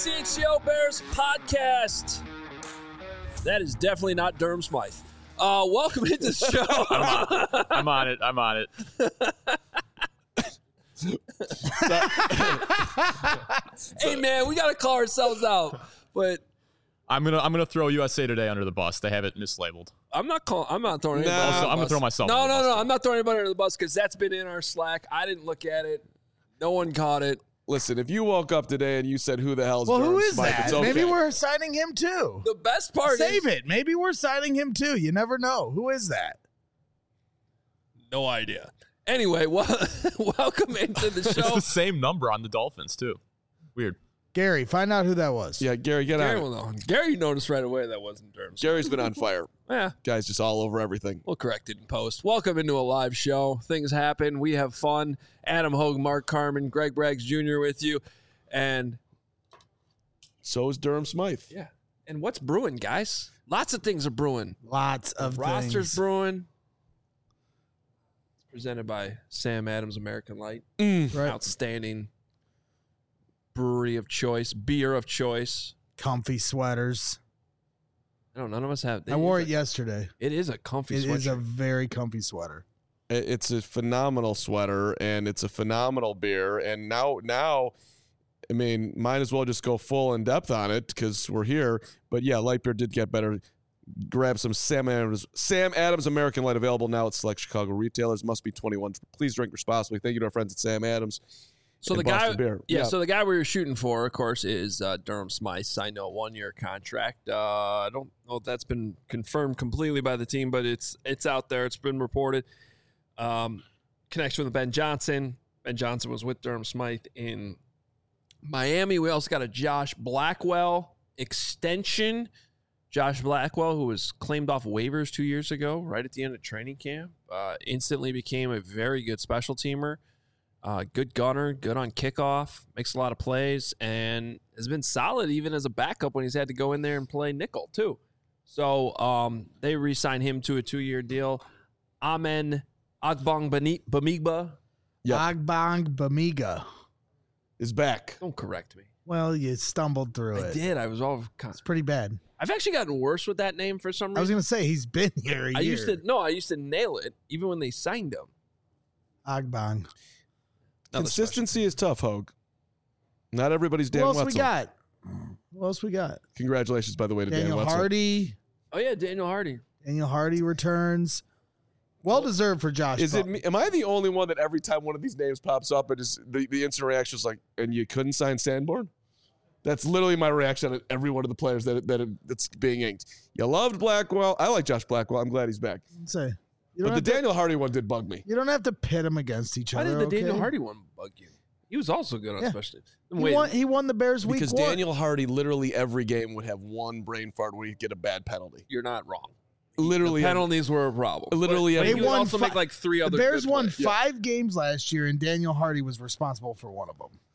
CHGO Bears podcast. That is definitely not Durham Smythe. Welcome into the show. I'm on it. Hey man, we gotta call ourselves out. But I'm gonna throw USA Today under the bus. They have it mislabeled. I'm not throwing anybody under the bus. I'm gonna throw myself. No. under the bus. I'm not throwing anybody under the bus because that's been in our Slack. I didn't look at it. No one caught it. Listen, if you woke up today and you said, "Who the hell's Well, Durham who is Smythe?" that? It's okay. Maybe we're signing him too. The best part Save is it. Maybe we're signing him too. You never know. Who is that? no idea. Anyway, welcome into the It's show. the same number on the Dolphins too. Weird. Gary, find out who that was. Yeah, Gary, get Gary on. will know. Gary noticed right away that wasn't Durham. Gary's been on fire. Yeah. Guy's just all over everything. We'll correct it in post. Welcome into a live show. Things happen. We have fun. Adam Hogue, Mark Carmen, Greg Braggs Jr. with you. And So is Durham Smythe. yeah. And what's brewing, guys? Lots of things are brewing. Lots of Roster's things. brewing. It's presented by Sam Adams American Light. Right. Outstanding brewery of choice, beer of choice. Comfy sweaters. I don't know. None of us have. I wore it yesterday. It is a comfy It is a sweatshirt. very comfy sweater. It's a phenomenal sweater and it's a phenomenal beer. And now, I mean, might as well just go full in depth on it because we're here. But yeah, light beer did get better. Grab some Sam Adams American Light, available now at select Chicago retailers. Must be 21. Please drink responsibly. Thank you to our friends at Sam Adams. So and the guy, Boston Beer. yeah. So the guy we were shooting for, of course, is Durham Smythe. Signed a 1-year contract. I don't know if that's been confirmed completely by the team, but it's out there. It's been reported. Connection with Ben Johnson. Ben Johnson was with Durham Smythe in Miami. We also got a Josh Blackwell extension. Josh Blackwell, who was claimed off waivers 2 years ago, right at the end of training camp, instantly became a very good special teamer. Good gunner, good on kickoff, makes a lot of plays, and has been solid even as a backup when he's had to go in there and play nickel too. So they re-signed him to a 2-year deal. Amen Agbong Bamigba. Yep. Agbong Bamiga. Is back. Don't correct me. Well, you stumbled through I it. did. I was all. It's pretty bad. I've actually gotten worse with that name for some reason. I was going to say, he's been here a year. I used to nail it even when they signed him. Agbong. Another Consistency is tough, Hogue. Not everybody's Dan Who else Wetzel. we got? Congratulations, by the way, to Dan Daniel Wetzel. Hardy. Oh yeah, Daniel Hardy. Daniel Hardy returns. Well deserved for Josh. Is it me? Am I the only one that every time one of these names pops up, it is the instant reaction is like, and you couldn't sign Sanborn? That's literally my reaction at every one of the players that's being inked. You loved Blackwell. I like Josh Blackwell. I'm glad he's back. Say, But the Daniel Hardy one did bug me. You don't have to pit them against each Why other. did the okay? Daniel Hardy one bug you? He was also good on Yeah. special teams. He won the Bears week Because one. Daniel Hardy literally every game would have one brain fart where he'd get a bad penalty. You're not wrong. Literally. The penalties were a problem. Literally but every- he They would won also make like 3 the other. Bears good won plays. 5 games last year, and Daniel Hardy was responsible for one of them.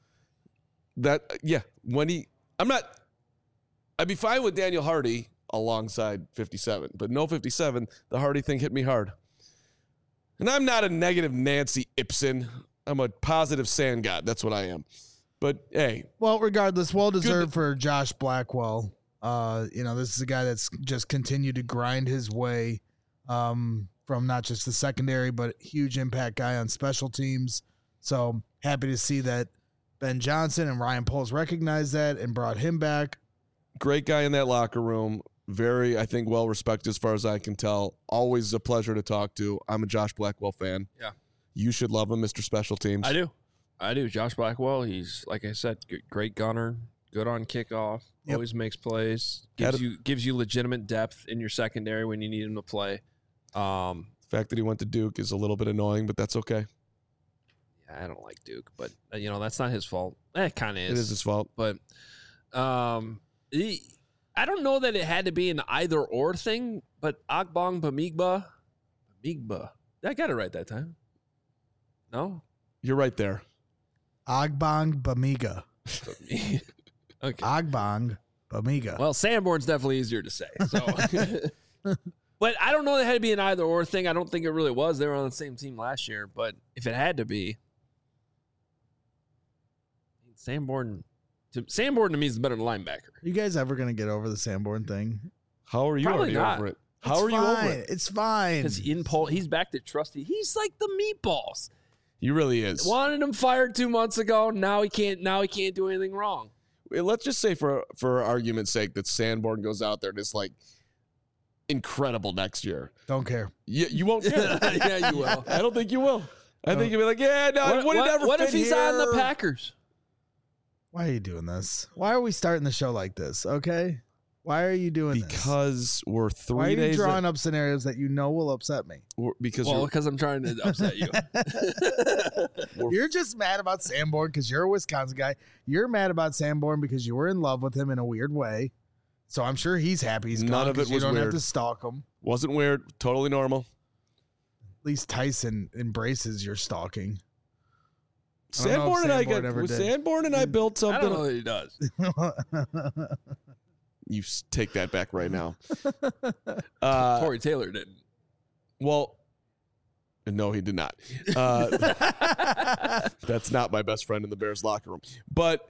I'd be fine with Daniel Hardy alongside 57, but no 57. The Hardy thing hit me hard. And I'm not a negative Nancy Ibsen. I'm a positive sand god. That's what I am. But hey, Well, regardless, well deserved for Josh Blackwell. This is a guy that's just continued to grind his way from not just the secondary, but huge impact guy on special teams. So happy to see that Ben Johnson and Ryan Poles recognized that and brought him back. great guy in that locker room. Very, I think, well respected as far as I can tell. Always a pleasure to talk to. I'm a Josh Blackwell fan. Yeah. You should love him, Mr. Special Teams. I do. Josh Blackwell, he's, like I said, great gunner, good on kickoff, Yep. always makes plays, gives you legitimate depth in your secondary when you need him to play. The fact that he went to Duke is a little bit annoying, but that's okay. Yeah, I don't like Duke, but that's not his fault. It kind of is. It is his fault. But I don't know that it had to be an either or thing, but Agbong Bamigba. I got it right that time. No? You're right there. Agbong Bamiga. Okay. Agbong Bamiga. Well, Sanborn's definitely easier to say. So. But I don't know that it had to be an either or thing. I don't think it really was. They were on the same team last year. But if it had to be, Sanborn Sanborn to me is the better linebacker. Are you guys ever going to get over the Sanborn thing? How are you Probably already not. over it? How are you over it? It's fine. Because he's back to trusty. He's like the meatballs. He really is. Wanted him fired 2 months ago. Now he can't do anything wrong. Let's just say for argument's sake that Sanborn goes out there and is like incredible next year. Don't care. You won't care. Yeah, you will. I don't think you will. I think you'll be like, yeah, no, What if he's on the Packers? Why are you doing this? Why are we starting the show like this? Okay. Why are you doing this? Because we're 3 Why are you days. drawing up scenarios that you know will upset me? Because I'm trying to upset you. You're just mad about Sanborn because you're a Wisconsin guy. You're mad about Sanborn because you were in love with him in a weird way. So I'm sure he's happy he's None gone of it 'cause you was don't have weird. to stalk him. wasn't weird. Totally normal. At least Tyson embraces your stalking. Sanborn and I built I don't know something. that he does. You take that back right now. Corey Taylor didn't. Well, no, he did not. That's not my best friend in the Bears locker room. But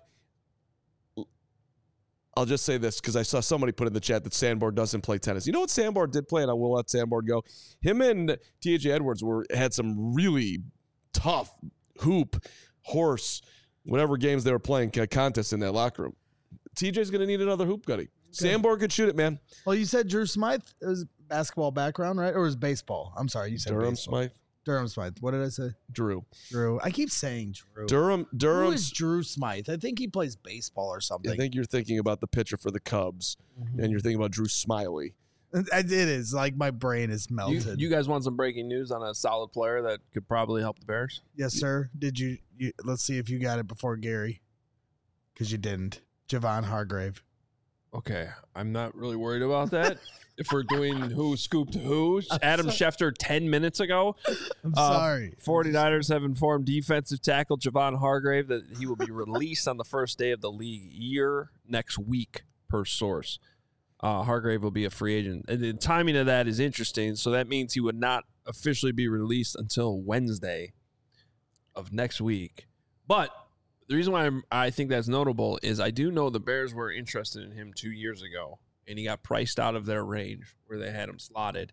I'll just say this because I saw somebody put in the chat that Sanborn doesn't play tennis. You know what Sanborn did play, and I will let Sanborn go? Him and T.J. Edwards had some really tough hoop, horse, whatever games they were playing, contests in that locker room. TJ's going to need another hoop gutty. Sanborn could shoot it, man. Well, you said Drew Smythe was basketball background, right? Or was baseball? I'm sorry, you said Durham baseball. Smythe. Durham Smythe. What did I say? Drew. I keep saying Drew. Who Who is Drew Smythe? I think he plays baseball or something. I think you're thinking about the pitcher for the Cubs, and you're thinking about Drew Smiley. It is like my brain is melted. You guys want some breaking news on a solid player that could probably help the Bears? Yes, sir. Did you? Let's see if you got it before Gary, because you didn't. Javon Hargrave. Okay, I'm not really worried about that. If we're doing who scooped who, Adam Schefter 10 minutes ago. I'm sorry. 49ers have informed defensive tackle Javon Hargrave that he will be released on the first day of the league year next week, per source. Hargrave will be a free agent. And the timing of that is interesting. So that means he would not officially be released until Wednesday of next week. But the reason why I think that's notable is I do know the Bears were interested in him 2 years ago, and he got priced out of their range where they had him slotted.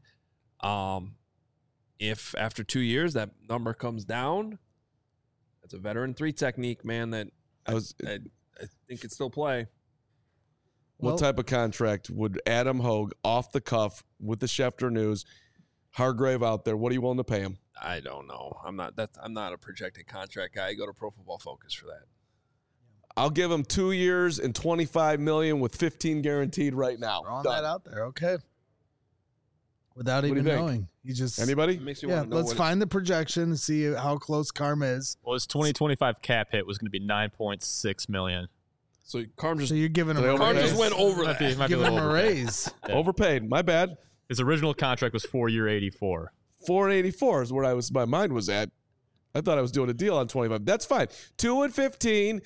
If after 2 years that number comes down, that's a veteran 3 technique, man, that I think could still play. What type of contract would Adam Hogue, off the cuff, with the Schefter news, Hargrave out there, what are you willing to pay him? I don't know. I'm not a projected contract guy. I go to Pro Football Focus for that. I'll give him 2 years and $25 million with 15 guaranteed right now. Throwing Done. that out there, okay. Without do you even think? knowing, you just Anybody? It makes me yeah. want to know Let's find the projection and see how close Carm is. Well, his 2025 cap hit was going to be $9.6 million. So Carm just So you're giving him They a Carm overpaid? just went over Might that. be, might be a giving him little a overpaid. raise. Yeah. Overpaid. My bad. His original contract was 4-year, 84. 484 is where my mind was at. I thought I was doing a deal on 25. That's fine. 2 and 15,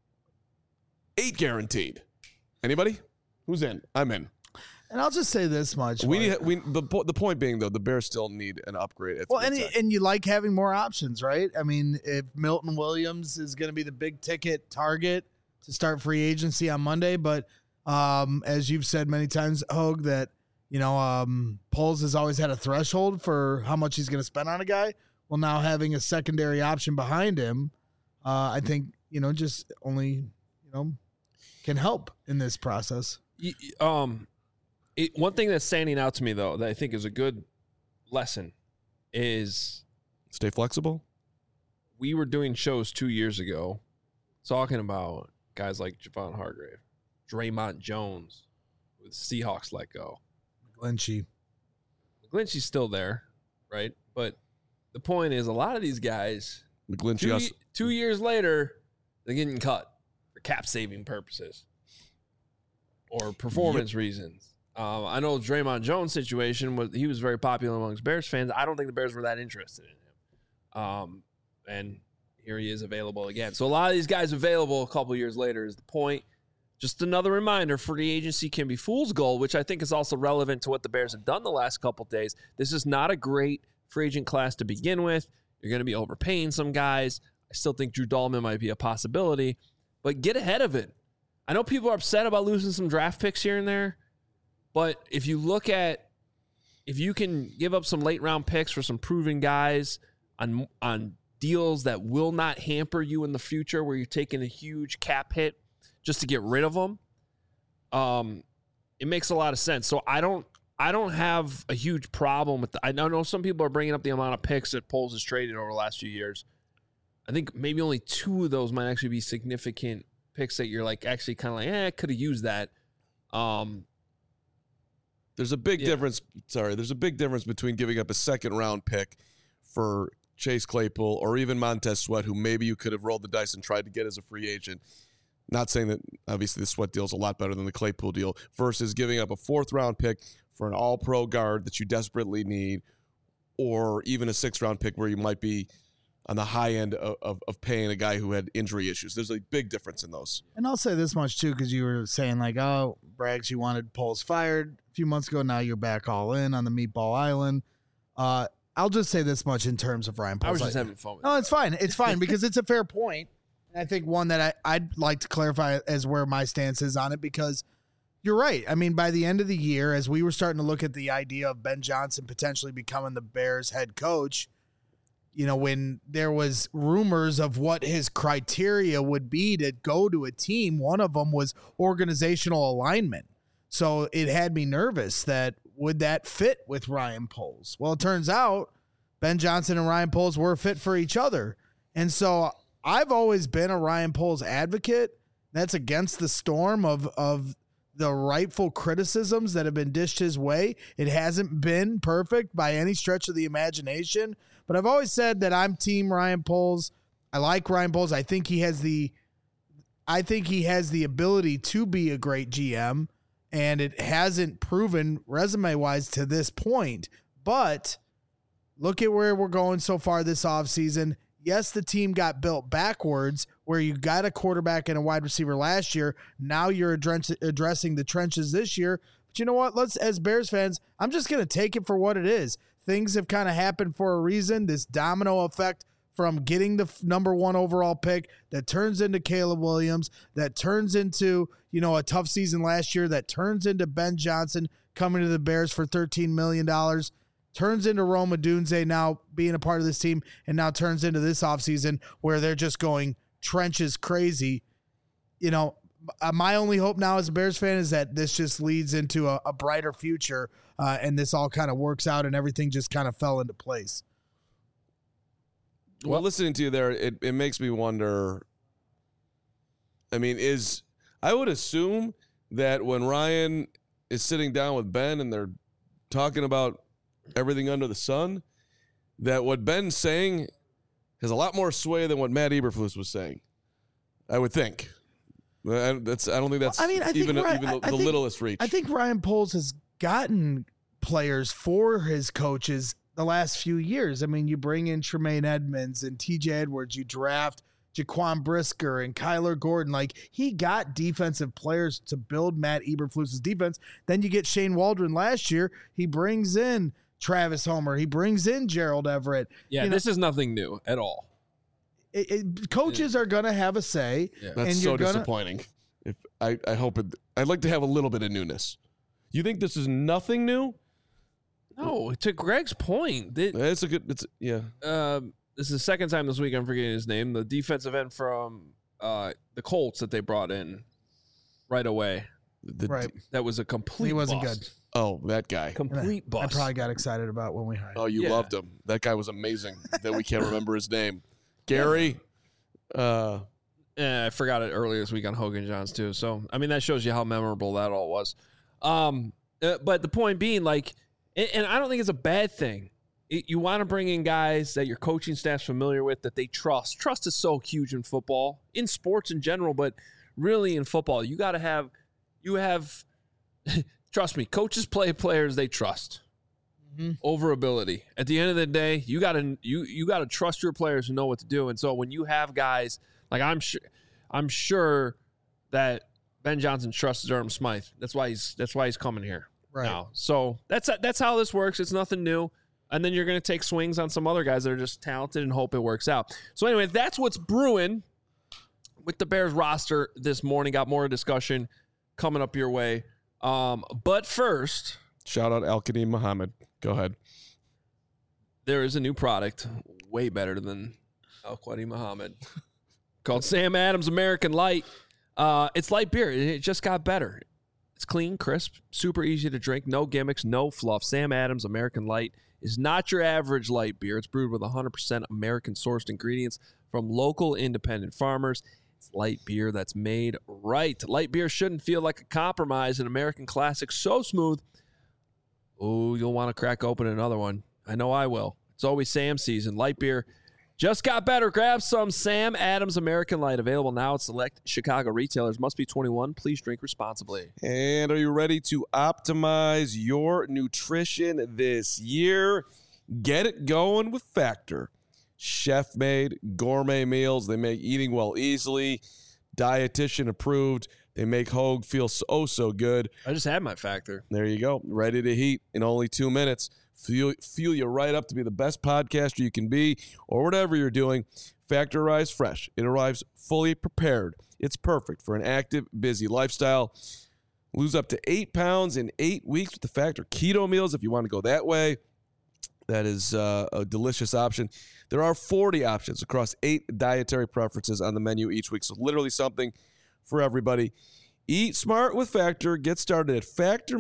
8 guaranteed. Anybody? Who's in? I'm in. And I'll just say this much: The point being though, the Bears still need an upgrade. At well, three tech. and you like having more options, right? I mean, if Milton Williams is going to be the big ticket target to start free agency on Monday, but as you've said many times, Hogue, that Poles has always had a threshold for how much he's going to spend on a guy. Well, now having a secondary option behind him, I think just only can help in this process. One thing that's standing out to me, though, that I think is a good lesson is Stay flexible. we were doing shows 2 years ago talking about guys like Javon Hargrave, Draymond Jones, with Seahawks let go. Lynchy. McGlinchey's still there, right? But the point is, a lot of these guys, McGlinchey. 2 years later, they're getting cut for cap-saving purposes or performance reasons. I know Draymond Jones' situation he was very popular amongst Bears fans. I don't think the Bears were that interested in him. And here he is available again. So a lot of these guys available a couple years later is the point. Just another reminder, free agency can be fool's gold, which I think is also relevant to what the Bears have done the last couple of days. This is not a great free agent class to begin with. You're going to be overpaying some guys. I still think Drew Dahlman might be a possibility, but get ahead of it. I know people are upset about losing some draft picks here and there, but if you can give up some late round picks for some proven guys on deals that will not hamper you in the future, where you're taking a huge cap hit just to get rid of them, it makes a lot of sense. So I don't have a huge problem with I know some people are bringing up the amount of picks that Poles has traded over the last few years. I think maybe only 2 of those might actually be significant picks that you're like actually kind of like, I could have used that. There's a big difference. Sorry, there's a big difference between giving up a second round pick for Chase Claypool or even Montez Sweat, who maybe you could have rolled the dice and tried to get as a free agent. Not saying that obviously the Sweat deal is a lot better than the Claypool deal, versus giving up a 4th round pick for an all-pro guard that you desperately need, or even a 6th round pick where you might be on the high end of paying a guy who had injury issues. There's a big difference in those. And I'll say this much too, because you were saying like, oh, Braggs, you wanted Poles fired a few months ago. Now you're back all in on the Meatball Island. I'll just say this much in terms of Ryan Poles. I was just having fun with No, it's fine. It's fine because it's a fair point. And I think one that I'd like to clarify as where my stance is on it, because you're right. I mean, by the end of the year, as we were starting to look at the idea of Ben Johnson potentially becoming the Bears head coach, when there was rumors of what his criteria would be to go to a team, one of them was organizational alignment. So it had me nervous that would that fit with Ryan Poles? Well, it turns out Ben Johnson and Ryan Poles were fit for each other. And so I've always been a Ryan Poles advocate. That's against the storm of the rightful criticisms that have been dished his way. It hasn't been perfect by any stretch of the imagination, but I've always said that I'm team Ryan Poles. I like Ryan Poles. I think he has the ability to be a great GM, and it hasn't proven resume-wise to this point. But look at where we're going so far this offseason. Yes, the team got built backwards, where you got a quarterback and a wide receiver last year. Now you're addressing the trenches this year. But you know what? As Bears fans, I'm just going to take it for what it is. Things have kind of happened for a reason. This domino effect from getting the number 1 overall pick that turns into Caleb Williams, that turns into, a tough season last year, that turns into Ben Johnson coming to the Bears for $13 million, turns into Rome Odunze now being a part of this team, and now turns into this offseason where they're just going trenches crazy. My only hope now as a Bears fan is that this just leads into a brighter future, and this all kind of works out and everything just kind of fell into place. Well, listening to you there, it makes me wonder. I mean, I would assume that when Ryan is sitting down with Ben and they're talking about everything under the sun, that what Ben's saying has a lot more sway than what Matt Eberflus was saying. I would think. I don't think that's the littlest reach. I think Ryan Poles has gotten players for his coaches the last few years. I mean, you bring in Tremaine Edmonds and TJ Edwards, you draft Jaquan Brisker and Kyler Gordon. Like, he got defensive players to build Matt Eberflus's defense. Then you get Shane Waldron last year. He brings in Travis Homer. He brings in Gerald Everett. Yeah, this is nothing new at all. Coaches are going to have a say. Yeah. That's so disappointing. I'd like to have a little bit of newness. You think this is nothing new? No, to Greg's point. This is the second time this week I'm forgetting his name. The defensive end from the Colts that they brought in right away. Right. That was a complete He wasn't bust. good. Oh, that guy. Complete bust. I probably got excited about when we hired him. Oh, you loved him. That guy was amazing that we can't remember his name. Gary. I forgot it earlier this week on Hogan Johns too. So, I mean, that shows you how memorable that all was. But the point being, like, and I don't think it's a bad thing. You want to bring in guys that your coaching staff's familiar with, that they trust. Trust is so huge in football, in sports in general, but really in football. You have, trust me, coaches play players they trust over ability. At the end of the day, you got to trust your players who know what to do. And so when you have guys like I'm sure that Ben Johnson trusts Durham Smythe. That's why he's coming here now. So that's how this works. It's nothing new. And then you're going to take swings on some other guys that are just talented and hope it works out. So anyway, that's what's brewing. with the Bears roster this morning. Got more discussion coming up your way. But first, shout out Al-Qadim Muhammad. Go ahead. There is a new product way better than Al-Qadim Muhammad called Sam Adams American Light. It's light beer. It just got better. It's clean, crisp, super easy to drink, no gimmicks, no fluff. Sam Adams American Light is not your average light beer. It's brewed with 100% American-sourced ingredients from local independent farmers. It's light beer that's made right. Light beer shouldn't feel like a compromise. An American classic so smooth. Oh, you'll want to crack open another one. I know I will. It's always Sam season. Light beer just got better. Grab some Sam Adams American Light. Available now at select Chicago retailers. Must be 21. Please drink responsibly. And are you ready to optimize your nutrition this year? Get it going with Factor. Chef-made gourmet meals. They make eating well easily. Dietitian approved. They make Hogue feel so good. I just had my Factor. There you go. Ready to heat in only 2 minutes. Fuel you right up to be the best podcaster you can be, or whatever you're doing. Factor arrives fresh. It arrives fully prepared. It's perfect for an active, busy lifestyle. Lose up to 8 pounds in 8 weeks with the Factor keto meals if you want to go that way. That is a delicious option. There are 40 options across 8 dietary preferences on the menu each week, so literally something for everybody. Eat smart with Factor. Get started at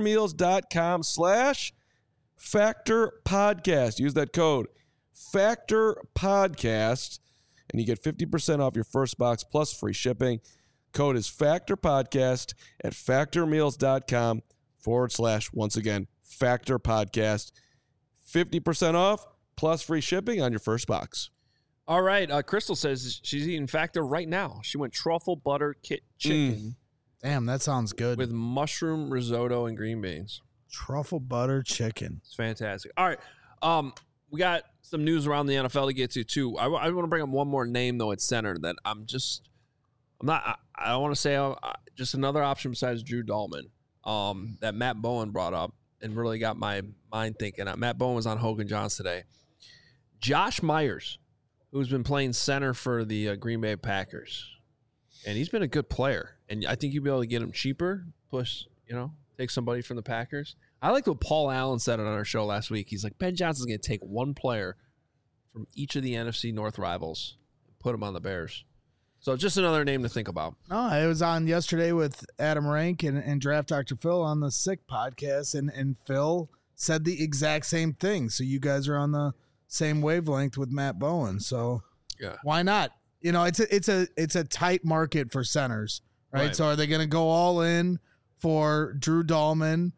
factormeals.com/Factor Podcast. Use that code Factor Podcast, and you get 50% off your first box plus free shipping. Code is Factor Podcast at factormeals.com / once again, Factor Podcast. 50% off plus free shipping on your first box. All right. Crystal says she's eating Factor right now. She went truffle butter chicken. Damn, that sounds good. With mushroom risotto and green beans. Truffle butter chicken. It's fantastic. All right. We got some news around the NFL to get to, too. I want to bring up one more name, though, at center that I don't want to say just another option besides Drew Dahlman that Matt Bowen brought up and really got my mind thinking. Matt Bowen was on Hogan Johns today. Josh Myers, who's been playing center for the Green Bay Packers. And he's been a good player. And I think you'll be able to get him cheaper, take somebody from the Packers. I like what Paul Allen said on our show last week. He's like, Ben Johnson's going to take one player from each of the NFC North rivals and put him on the Bears. So just another name to think about. No, I was on yesterday with Adam Rank and Draft Dr. Phil on the Sick podcast, and Phil said the exact same thing. So you guys are on the same wavelength with Matt Bowen. So why not? It's a tight market for centers, right? So are they going to go all in for Drew Dahlman?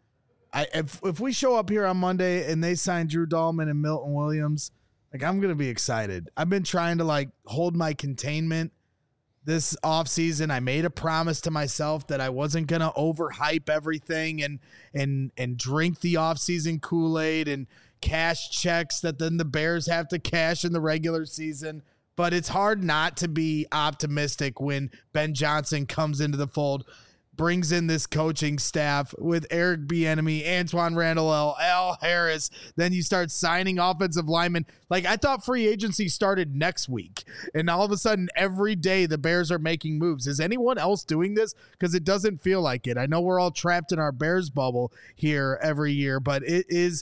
If we show up here on Monday and they sign Drew Dahlman and Milton Williams, I'm going to be excited. I've been trying to hold my containment this offseason. I made a promise to myself that I wasn't going to overhype everything and drink the offseason Kool-Aid and cash checks that then the Bears have to cash in the regular season. But it's hard not to be optimistic when Ben Johnson comes into the fold, brings in this coaching staff with Eric Bieniemy, Antoine Randall, Al Harris. Then you start signing offensive linemen. I thought free agency started next week, and all of a sudden every day the Bears are making moves. Is anyone else doing this? Because it doesn't feel like it. I know we're all trapped in our Bears bubble here every year, but it's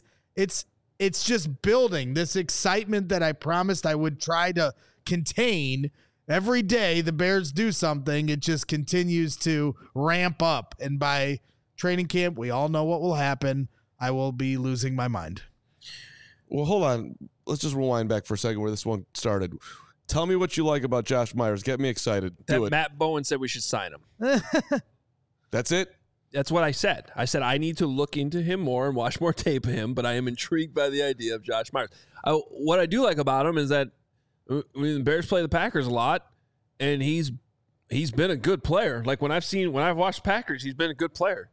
just building this excitement that I promised I would try to contain. Every day the Bears do something, it just continues to ramp up. And by training camp, we all know what will happen. I will be losing my mind. Well, hold on. Let's just rewind back for a second where this one started. Tell me what you like about Josh Myers. Get me excited. Do it. Matt Bowen said we should sign him. That's it? That's what I said. I said I need to look into him more and watch more tape of him, but I am intrigued by the idea of Josh Myers. What I do like about him is that the Bears play the Packers a lot, and he's been a good player. When I've watched Packers, he's been a good player.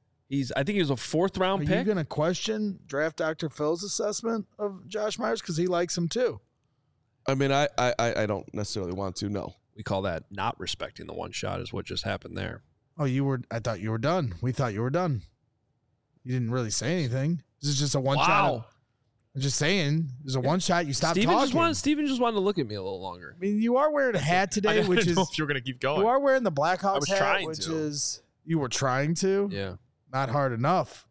I think he was a 4th round pick. Are you going to question Draft Dr. Phil's assessment of Josh Myers because he likes him too? I mean, I don't necessarily want to. No, we call that not respecting the one shot. Is what just happened there. Oh, I thought you were done. We thought you were done. You didn't really say anything. This is just a one shot. I'm just saying, there's a one shot. You stop talking. Steven just wanted to look at me a little longer. I mean, you are wearing a hat today, which is. Know if you're going to keep going. You are wearing the Blackhawks hat, which to. is. You were trying to? Yeah. Not hard enough.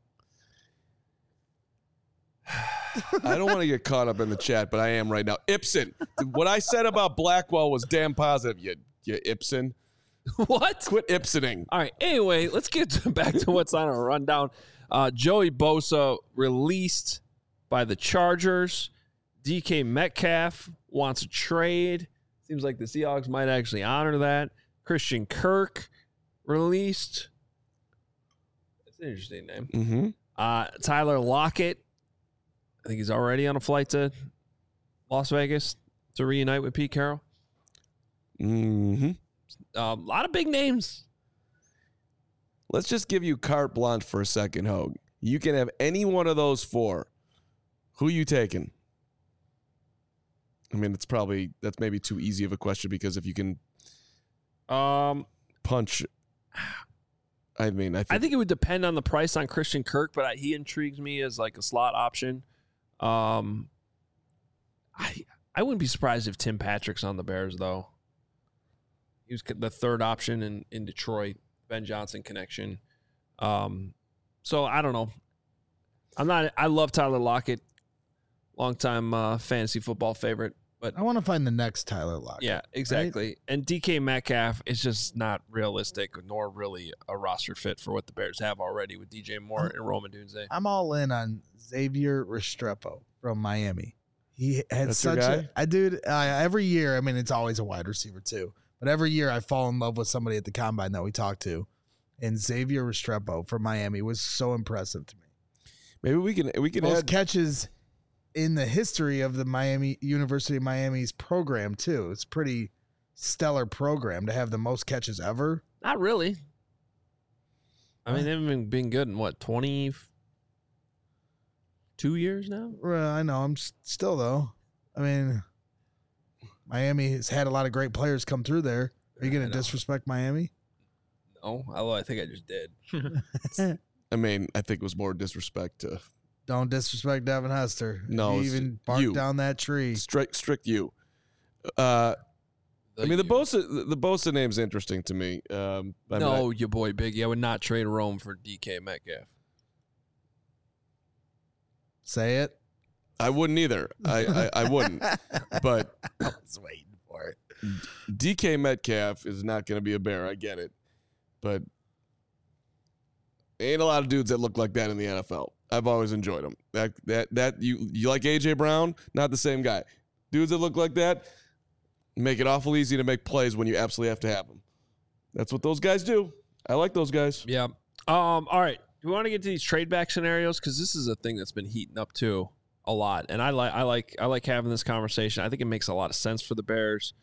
I don't want to get caught up in the chat, but I am right now. Ibson. What I said about Blackwell was damn positive, you Ibson. What? Quit Ibsoning. All right. Anyway, let's get back to what's on our rundown. Joey Bosa released by the Chargers. DK Metcalf wants a trade. Seems like the Seahawks might actually honor that. Christian Kirk released. That's an interesting name. Mm-hmm. Tyler Lockett. I think he's already on a flight to Las Vegas to reunite with Pete Carroll. Mm-hmm. A lot of big names. Let's just give you carte blanche for a second, Hogue. You can have any one of those four. Who you taking? I mean, that's maybe too easy of a question because if you can punch, I think it would depend on the price on Christian Kirk, but he intrigues me as like a slot option. I wouldn't be surprised if Tim Patrick's on the Bears though. He was the third option in Detroit. Ben Johnson connection. So I don't know. I love Tyler Lockett, longtime fantasy football favorite. But I want to find the next Tyler Lockett. Yeah, exactly. Right? And DK Metcalf is just not realistic, nor really a roster fit for what the Bears have already with DJ Moore and Rome Odunze. I'm all in on Xavier Restrepo from Miami. He had That's such your guy? dude. Every year, I mean, it's always a wide receiver too. But every year I fall in love with somebody at the combine that we talk to. And Xavier Restrepo from Miami was so impressive to me. Maybe we can most add catches in the history of the University of Miami's program too. It's a pretty stellar program to have the most catches ever. Not really. I mean, they've been good in what, 22 years now? I know. I'm still though. I mean, Miami has had a lot of great players come through there. Are you going to disrespect Miami? No, although I think I just did. I mean, I think it was more disrespect to. Don't disrespect Devin Hester. No, he even barked down that tree. Strict you. I mean, the Bosa name's interesting to me. Your boy Biggie. I would not trade Rome for DK Metcalf. Say it. I wouldn't either. I wouldn't. But I was waiting for it. DK Metcalf is not going to be a Bear. I get it. But ain't a lot of dudes that look like that in the NFL. I've always enjoyed them. That you like AJ Brown? Not the same guy. Dudes that look like that make it awful easy to make plays when you absolutely have to have them. That's what those guys do. I like those guys. Yeah. All right. Do we want to get to these trade back scenarios? Because this is a thing that's been heating up too a lot, and I like having this conversation. I think it makes a lot of sense for the Bears.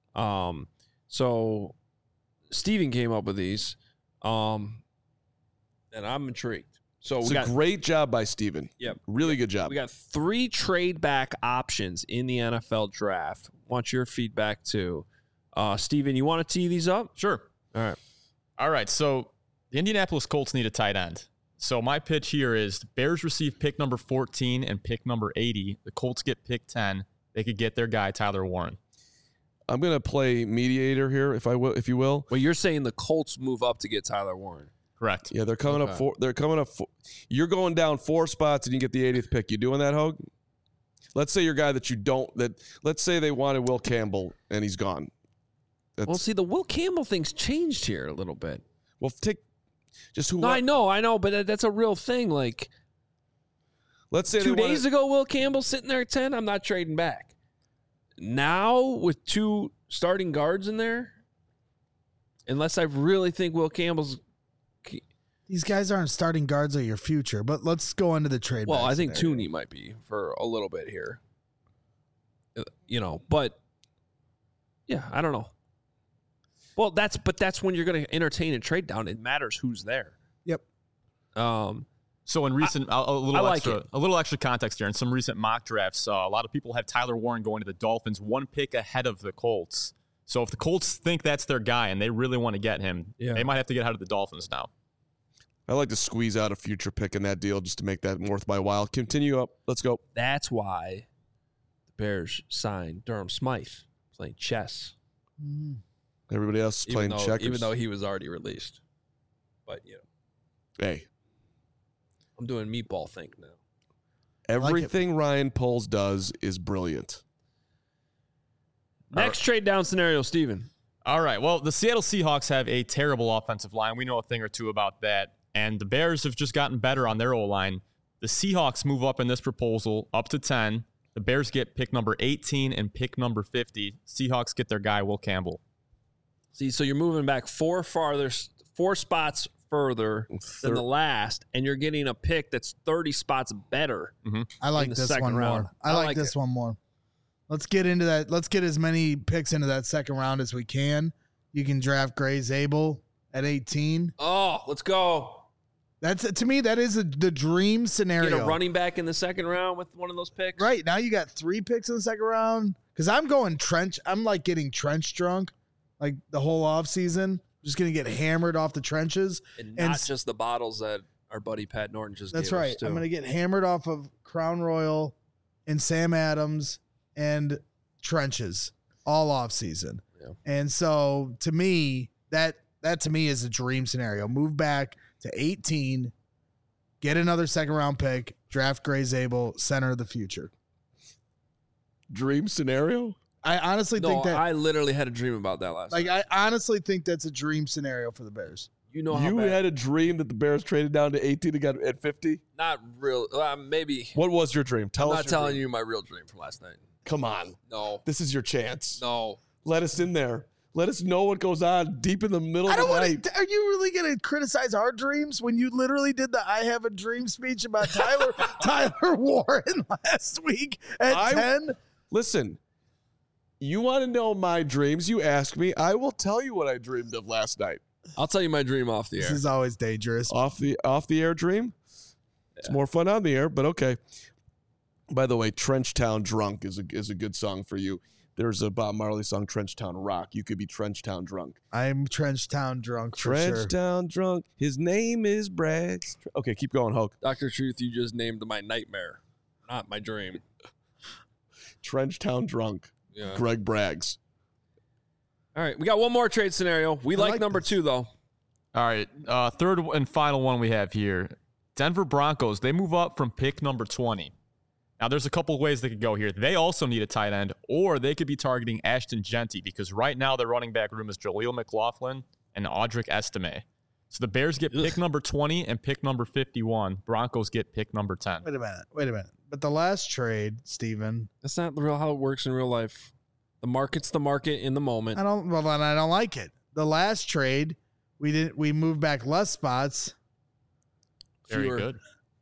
So Steven came up with these, and I'm intrigued. So it's a great job by Steven. Yep. Really good job. We got 3 trade back options in the NFL draft. Want your feedback too. Steven, you want to tee these up? Sure. All right. So the Indianapolis Colts need a tight end. So my pitch here is the Bears receive pick number 14 and pick number 80. The Colts get pick 10. They could get their guy, Tyler Warren. I'm going to play mediator here, if you will. Well, you're saying the Colts move up to get Tyler Warren. Correct. Yeah, they're coming up. You're going down 4 spots and you get the 80th pick. You doing that, Hogue? Let's say your guy that you don't. Let's say they wanted Will Campbell and he's gone. See, the Will Campbell thing's changed here a little bit. Well, take just who. No, I know, but that's a real thing. Like, let's say 2 days ago, Will Campbell sitting there at 10. I'm not trading back. Now with 2 starting guards in there, unless I really think Will Campbell's. These guys aren't starting guards of your future, but let's go into the trade. Well, I think Tooney might be for a little bit here. But yeah, I don't know. Well, that's when you're going to entertain a trade down. It matters who's there. Yep. So in recent, a little extra context here. In some recent mock drafts, a lot of people have Tyler Warren going to the Dolphins, 1 pick ahead of the Colts. So if the Colts think that's their guy and they really want to get him, they might have to get out of the Dolphins now. I like to squeeze out a future pick in that deal just to make that worth my while. Continue up. Let's go. That's why the Bears signed Durham Smythe playing chess. Everybody else is playing checkers. Even though he was already released. But, Hey. I'm doing meatball think now. Everything Ryan Poles does is brilliant. Next trade down scenario, Steven. All right. Well, the Seattle Seahawks have a terrible offensive line. We know a thing or two about that. And the Bears have just gotten better on their O-line. The Seahawks move up in this proposal up to 10. The Bears get pick number 18 and pick number 50. Seahawks get their guy, Will Campbell. See, so you're moving back four spots further than the last, and you're getting a pick that's 30 spots better. Mm-hmm. I like the this second one round. more. I like this one more. Let's get into that. Let's get as many picks into that second round as we can. You can draft Gray Zabel at 18. Oh, let's go. That's to me, that is the dream scenario. Get a running back in the second round with one of those picks. Right now, you got 3 picks in the second round. Because I'm going trench. I'm like getting trench drunk, like the whole offseason. Just gonna get hammered off the trenches, and not just the bottles that our buddy Pat Norton just. That's gave right. us too. I'm gonna get hammered off of Crown Royal and Sam Adams and trenches all off season. Yeah. And so to me, that to me is a dream scenario. Move back to 18, get another second round pick, draft Gray Zabel, center of the future. Dream scenario? I honestly think that I literally had a dream about that last night. I honestly think that's a dream scenario for the Bears. You know how You bad, had a dream that the Bears traded down to 18 and got at 50? not real. Maybe. What was your dream? Tell I'm us. not telling you my real dream from last night. Come on. No. This is your chance. No. Let us in there. Let us know what goes on deep in the middle I of don't the want night. to. Are you really going to criticize our dreams when you literally did the "I Have a Dream" speech about Tyler Warren last week at 10? Listen, you want to know my dreams? You ask me. I will tell you what I dreamed of last night. I'll tell you my dream off the This air. is always dangerous. Off the air dream. It's more fun on the air, but okay. By the way, Trenchtown Drunk is a good song for you. There's a Bob Marley song, Trenchtown Rock. You could be Trenchtown Drunk. I'm Trenchtown drunk for sure. Trenchtown Drunk. His name is Braggs. Okay, keep going, Hulk. Dr. Truth, you just named my nightmare, not my dream. Trenchtown Drunk. Yeah. Greg Braggs. All right, we got one more trade scenario. We like like number this. 2, though. All right. Third and final one we have here. Denver Broncos, they move up from pick number 20. Now, there's a couple of ways they could go here. They also need a tight end, or they could be targeting Ashton Genty because right now their running back room is Jaleel McLaughlin and Audric Estime. So the Bears get pick number 20 and pick number 51. Broncos get pick number 10. Wait a minute. But the last trade, Steven, That's not real how it works in real life. The market's the market in the moment. I don't like it. The last trade, we moved back less spots. Very Fewer. good.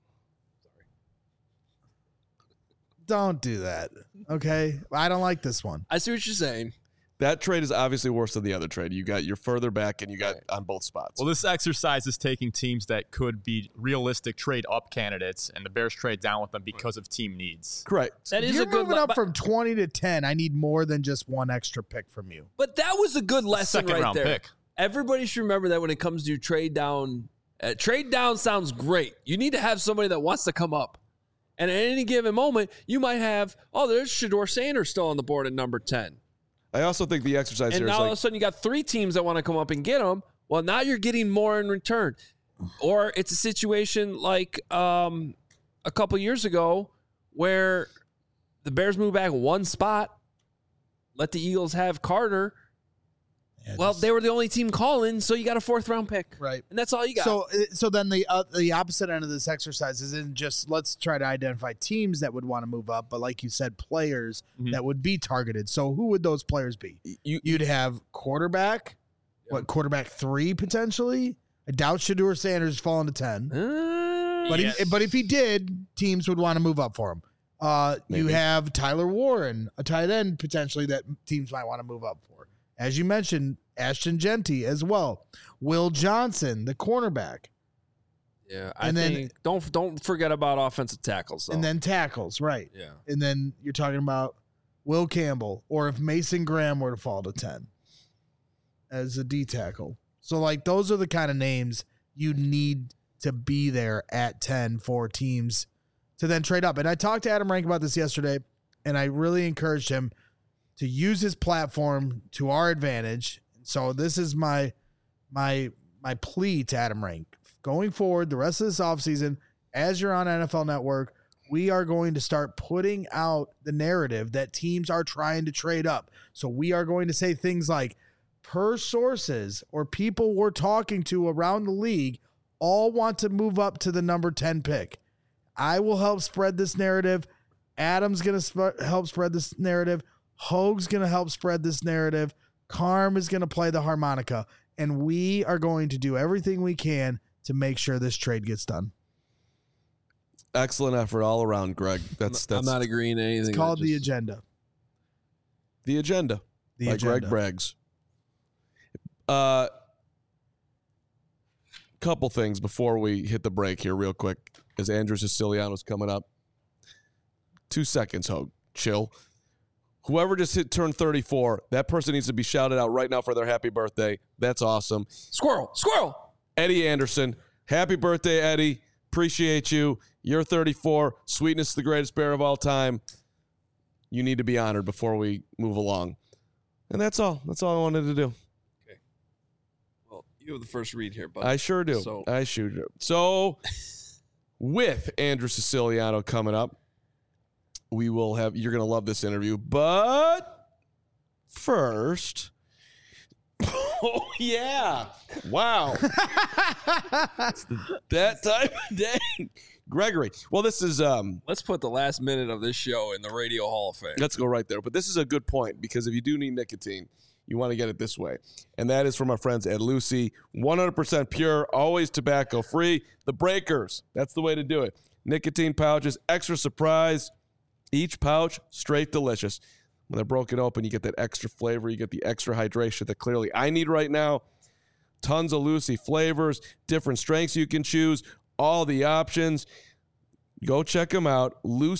Don't do that. Okay? I don't like this one. I see what you're saying. That trade is obviously worse than the other trade. You're further back and you got on both spots. Well, this exercise is taking teams that could be realistic trade-up candidates, and the Bears trade down with them because of team needs. Correct. That If is you're a good moving up but- from 20 to 10, I need more than just one extra pick from you. But that was a good lesson Second right round there. pick. Everybody should remember that when it comes to trade down. Trade down sounds great. You need to have somebody that wants to come up. And at any given moment, you might have, there's Shedeur Sanders still on the board at number 10. I also think the exercise And here now is all of a like, sudden you got 3 teams that want to come up and get them. Well, now you're getting more in return. Or it's a situation like a couple years ago where the Bears move back one spot, let the Eagles have Carter. Yeah, They were the only team calling, so you got a 4th round pick. right. And that's all you got. So then the opposite end of this exercise isn't just let's try to identify teams that would want to move up, but like you said, players that would be targeted. So who would those players be? You'd have quarterback, quarterback 3 potentially. I doubt Shedeur Sanders falling to 10. But if he did, teams would want to move up for him. You have Tyler Warren, a tight end potentially that teams might want to move up for. As you mentioned, Ashton Genty as well. Will Johnson, the cornerback. Yeah, And then- think don't forget about offensive tackles. Though. And then tackles, right. yeah, And then you're talking about Will Campbell, or if Mason Graham were to fall to 10 as a D tackle. So, like, those are the kind of names you need to be there at 10 for teams to then trade up. And I talked to Adam Rank about this yesterday, and I really encouraged him to use his platform to our advantage. So this is my plea to Adam Rank. Going forward, the rest of this offseason, as you're on NFL Network, we are going to start putting out the narrative that teams are trying to trade up. So we are going to say things like, per sources or people we're talking to around the league, all want to move up to the number 10 pick. I will help spread this narrative. Adam's going to help spread this narrative. Hoag's going to help spread this narrative. Carm is going to play the harmonica. And we are going to do everything we can to make sure this trade gets done. Excellent effort all around, Greg. I'm not agreeing to anything. It's called The Agenda. The Agenda by Agenda. Greg Braggs. Couple things before we hit the break here real quick, as Andrew Siciliano's coming up. 2 seconds, Hoag. Chill. Whoever just turned 34, that person needs to be shouted out right now for their happy birthday. That's awesome. Squirrel. Eddie Anderson. Happy birthday, Eddie. Appreciate you. You're 34. Sweetness is the greatest bear of all time. You need to be honored before we move along. And that's all. That's all I wanted to do. Okay. Well, you have the first read here, bud. I sure do. So with Andrew Siciliano coming up, we will have, you're going to love this interview, but first, oh yeah, wow. That time of day. Gregory. Well, this is, let's put the last minute of this show in the Radio Hall of Fame. Let's go right there. But this is a good point, because if you do need nicotine, you want to get it this way. And that is from our friends at Lucy. 100% pure, always tobacco free. The Breakers. That's the way to do it. Nicotine pouches, extra surprise. Each pouch, straight delicious. When they're broken open, you get that extra flavor. You get the extra hydration that clearly I need right now. Tons of Lucy flavors, different strengths you can choose, all the options. Go check them out.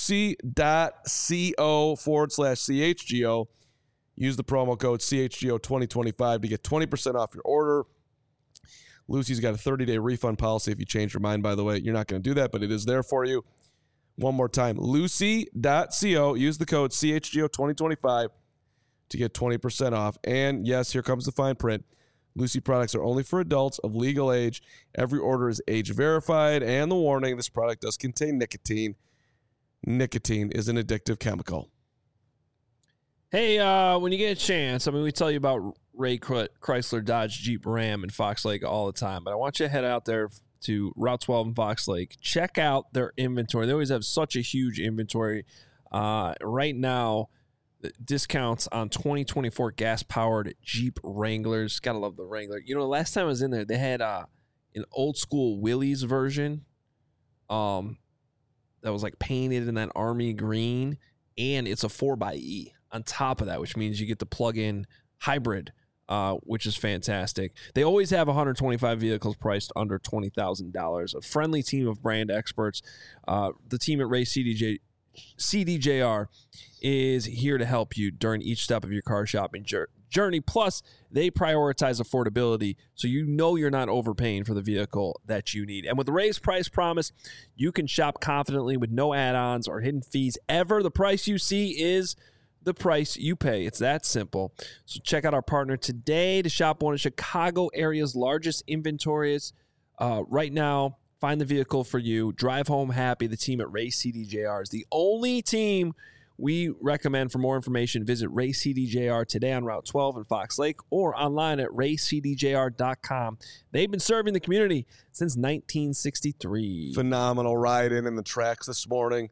Lucy.co/CHGO. Use the promo code CHGO2025 to get 20% off your order. Lucy's got a 30-day refund policy if you change your mind, by the way. You're not going to do that, but it is there for you. One more time, Lucy.co. Use the code CHGO2025 to get 20% off. And yes, here comes the fine print. Lucy products are only for adults of legal age. Every order is age verified. And the warning, this product does contain nicotine. Nicotine is an addictive chemical. Hey, when you get a chance, I mean, we tell you about Ray Chrysler, Dodge, Jeep, Ram, and Fox Lake all the time, but I want you to head out there to Route 12 and Fox Lake. Check out their inventory. They always have such a huge inventory. Right now, discounts on 2024 gas-powered Jeep Wranglers. Gotta love the Wrangler. You know, the last time I was in there, they had an old-school Willys version that was like painted in that army green, and it's a 4xe on top of that, which means you get the plug-in hybrid, which is fantastic. They always have 125 vehicles priced under $20,000. A friendly team of brand experts. The team at Ray CDJR is here to help you during each step of your car shopping journey. Plus, they prioritize affordability, so you know you're not overpaying for the vehicle that you need. And with the Ray's Price Promise, you can shop confidently with no add-ons or hidden fees ever. The price you see is the price you pay. It's that simple. So check out our partner today to shop one of Chicago area's largest inventories. Right now, find the vehicle for you. Drive home happy. The team at Ray CDJR is the only team we recommend. For more information, visit Ray CDJR today on Route 12 in Fox Lake or online at raycdjr.com. They've been serving the community since 1963. Phenomenal ride in the tracks this morning.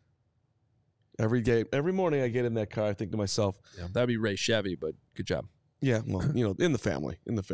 Every morning I get in that car, I think to myself, yeah, that'd be Ray Chevy, but good job. Yeah, well, you know, in the family.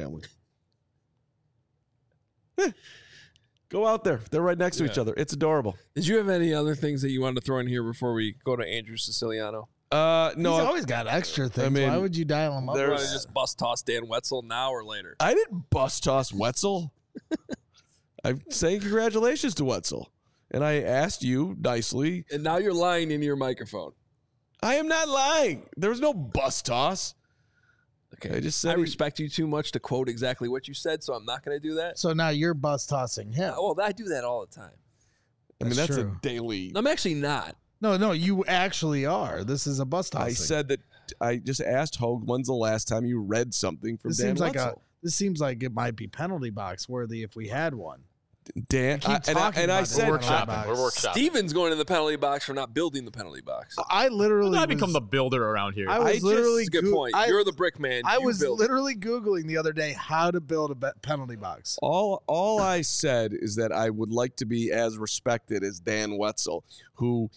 Go out there. They're right next to each other. It's adorable. Did you have any other things that you wanted to throw in here before we go to Andrew Siciliano? No. He's always got extra things. I mean, why would you dial him up? You want to just bust toss Dan Wetzel now or later? I didn't bust toss Wetzel. I'm saying congratulations to Wetzel. And I asked you nicely. And now you're lying into your microphone. I am not lying. There was no bus toss. Okay. I just said I respect you too much to quote exactly what you said, so I'm not going to do that. So now you're bus tossing him. Well, I do that all the time. I mean, that's true. a daily. I'm actually not. No, you actually are. This is a bus tossing. I said that. I just asked Hogue, when's the last time you read something from this Dan seems like Wetzel? this seems like it might be penalty box worthy if we had one. Dan, Keep I talking and I about said, the We're workshopping. box. We're workshopping. Steven's going in the penalty box for not building the penalty box. I literally I become was- the builder around here. I was just- literally That's a good Goo- point. I- You're the brick man. I You was build it. literally Googling the other day how to build a penalty box. all I said is that I would like to be as respected as Dan Wetzel, who,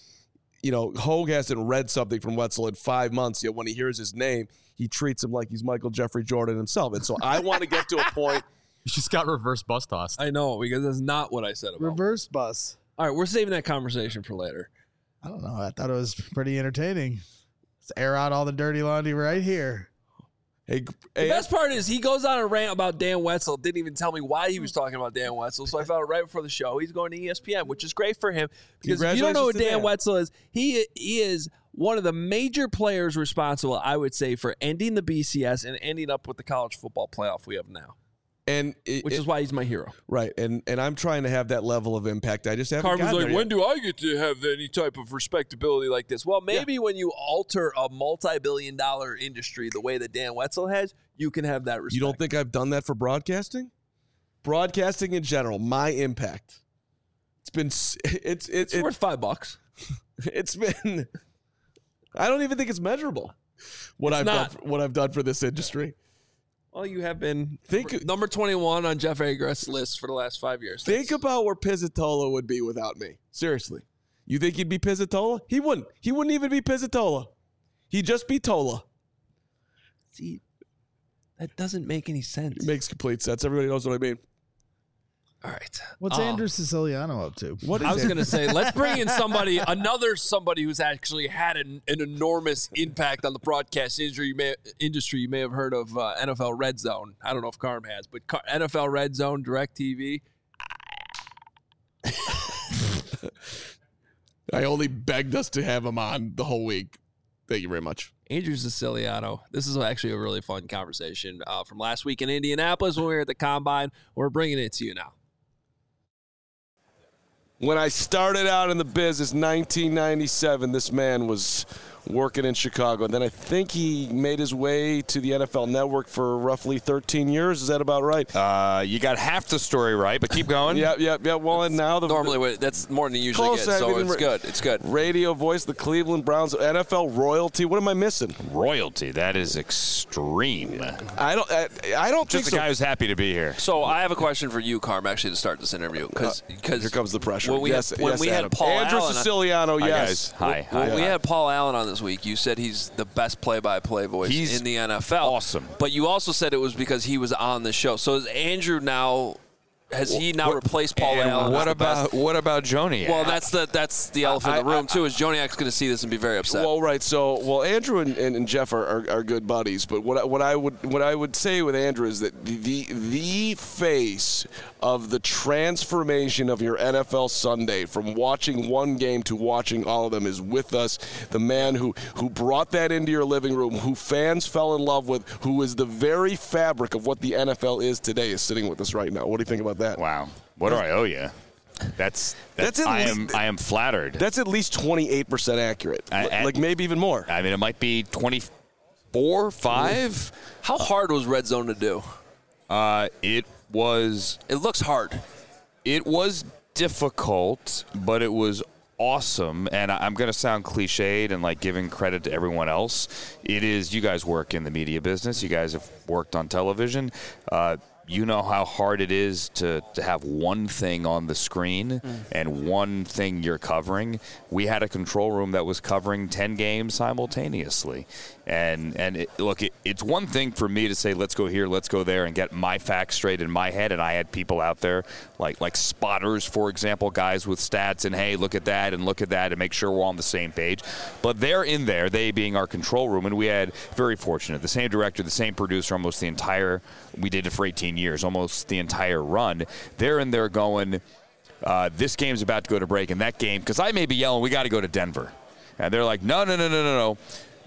Hogue hasn't read something from Wetzel in 5 months, yet when he hears his name, he treats him like he's Michael Jeffrey Jordan himself. And so I want to get to a point. You just got reverse bus tossed. I know, because that's not what I said about Reverse bus. All right, we're saving that conversation for later. I don't know. I thought it was pretty entertaining. Let's air out all the dirty laundry right here. Hey, The best part is he goes on a rant about Dan Wetzel. Didn't even tell me why he was talking about Dan Wetzel. So I found out right before the show. He's going to ESPN, which is great for him. Because if you don't know who Congratulations to Dan Dan. Wetzel is, he is one of the major players responsible, I would say, for ending the BCS and ending up with the college football playoff we have now. and Which is why he's my hero. right. And I'm trying to have that level of impact. I just haven't Carmen's gotten like, there when yet. do I get to have any type of respectability like this? Well, maybe when you alter a multi-billion-dollar industry the way that Dan Wetzel has, you can have that respect. You don't think I've done that for broadcasting? Broadcasting in general, my impact. It's been it's worth $5? it's been. I don't even think it's measurable. What I've done for this industry. Well, you have been Think- number 21 on Jeff Agrest's list for the last 5 years. Think about where Pizzatola would be without me. Seriously, you think he'd be Pizzatola? He wouldn't. He wouldn't even be Pizzatola. He'd just be Tola. See, that doesn't make any sense. It makes complete sense. Everybody knows what I mean. All right. What's Andrew Siciliano up to? What I is was it? going to say, let's bring in somebody who's actually had an enormous impact on the broadcast industry. You may have heard of NFL Red Zone. I don't know if Carm has, but NFL Red Zone, DirecTV. I only begged us to have him on the whole week. Thank you very much. Andrew Siciliano. This is actually a really fun conversation from last week in Indianapolis when we were at the Combine. We're bringing it to you now. When I started out in the business, 1997, this man was working in Chicago. And then I think he made his way to the NFL Network for roughly 13 years. Is that about right? You got half the story right, but keep going. Yep. Well, and now Normally, that's more than you usually Close, get, I so mean, it's good. It's good. radio voice, the Cleveland Browns, NFL royalty. What am I missing? Royalty. That is extreme. I don't think Just a so. guy who's happy to be here. So I have a question for you, Carm, actually, to start this interview. Because Here comes the pressure. When we Yes, had, when yes, we Adam. had Paul Andrew Allen, Siciliano, Hi, yes. guys. Hi. when we had Paul Allen on this week, you said he's the best play-by-play voice He's in the NFL. awesome. But you also said it was because he was on the show. So is Andrew now? Has he now replaced Paul And Allen? what as the best? about Joni? Well, that's the elephant in the room too. Is Joniak's going to see this and be very upset? Well, right. So, Andrew and Jeff are good buddies. But what I would say with Andrew is that the face of the transformation of your NFL Sunday from watching one game to watching all of them is with us. The man who brought that into your living room, who fans fell in love with, who is the very fabric of what the NFL is today, is sitting with us right now. What do you think about that? Wow. What do I owe you? That's at I least- am flattered. That's at least 28% accurate. Like maybe even more. I mean, it might be 24, 5. How hard was Red Zone to do? It was It looks hard. It was difficult, but it was awesome. And I'm going to sound cliched and like giving credit to everyone else. It is, you guys work in the media business. You guys have worked on television. You know how hard it is to have one thing on the screen and one thing you're covering. We had a control room that was covering 10 games simultaneously. And it's one thing for me to say, let's go here, let's go there, and get my facts straight in my head. And I had people out there, like spotters, for example, guys with stats, and hey, look at that, and make sure we're on the same page. But they're in there, they being our control room, and we had, very fortunate, the same director, the same producer, almost the entire, we did it for 18 years, almost the entire run. They're in there going, this game's about to go to break, and that game, because I may be yelling, we got to go to Denver. And they're like, no.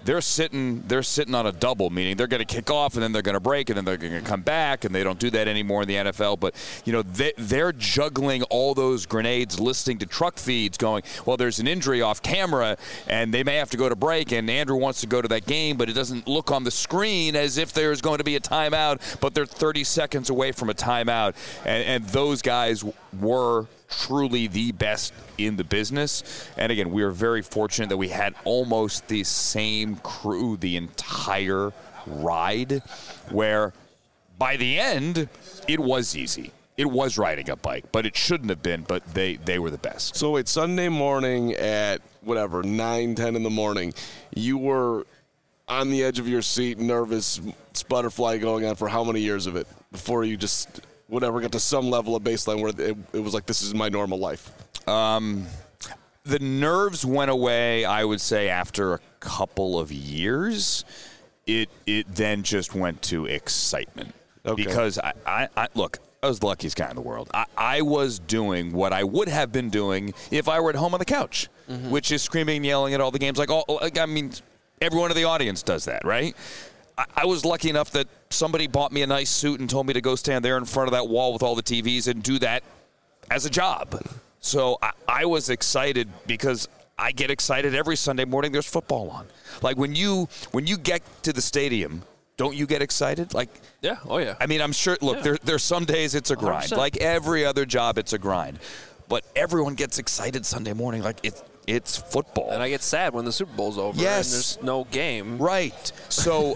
they're sitting on a double, meaning they're going to kick off and then they're going to break and then they're going to come back, and they don't do that anymore in the NFL. But, they're juggling all those grenades, listening to truck feeds going, well, there's an injury off camera and they may have to go to break, and Andrew wants to go to that game, but it doesn't look on the screen as if there's going to be a timeout, but they're 30 seconds away from a timeout. And those guys were truly the best in the business. And again, we are very fortunate that we had almost the same crew the entire ride, where by the end it was easy. It was riding a bike, but it shouldn't have been, but they were the best. So wait, Sunday morning at 9, 10 in the morning, you were on the edge of your seat, nervous, butterfly going on for how many years of it before you just got to some level of baseline where it was like, this is my normal life? The nerves went away, I would say, after a couple of years. It then just went to excitement. Okay. Because I look, I was the luckiest guy in the world. I was doing what I would have been doing if I were at home on the couch, which is screaming and yelling at all the games. Everyone in the audience does that, right? I was lucky enough that somebody bought me a nice suit and told me to go stand there in front of that wall with all the TVs and do that as a job. So I was excited because I get excited every Sunday morning there's football on. Like when you get to the stadium, don't you get excited? Yeah, oh yeah. I mean, I'm sure, look, there's some days it's a grind. 100%. Like every other job, it's a grind. But everyone gets excited Sunday morning. It's football. And I get sad when the Super Bowl's over Yes. and there's no game. Right. So,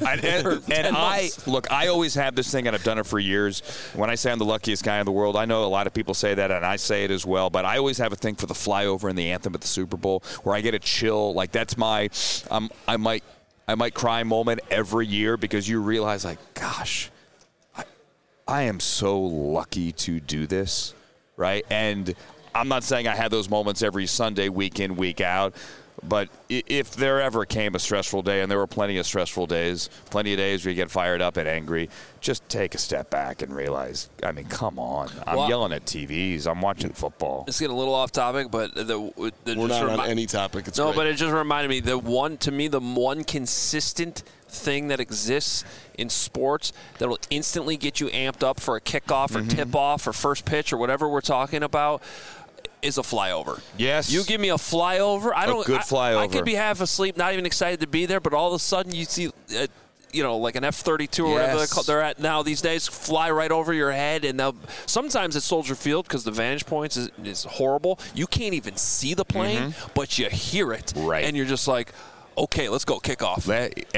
I always have this thing, and I've done it for years. When I say I'm the luckiest guy in the world, I know a lot of people say that, and I say it as well, but I always have a thing for the flyover and the anthem at the Super Bowl where I get a chill. Like, that's my I might cry moment every year, because you realize, gosh, I am so lucky to do this, right? And I'm not saying I had those moments every Sunday, week in, week out, but if there ever came a stressful day, and there were plenty of stressful days, plenty of days where you get fired up and angry, just take a step back and realize, come on. I'm yelling at TVs. I'm watching football. It's getting a little off topic, but we're not on any topic. It's no, great. but it just reminded me, the one consistent thing that exists in sports that will instantly get you amped up for a kickoff or tip-off or first pitch or whatever we're talking about is a flyover. Yes. You give me a flyover. Good flyover. I could be half asleep, not even excited to be there, but all of a sudden you see, like an F-32 or whatever they're at now these days, fly right over your head. And sometimes at Soldier Field, because the vantage points is horrible, you can't even see the plane, but you hear it. Right. And you're just like, okay, let's go kick off.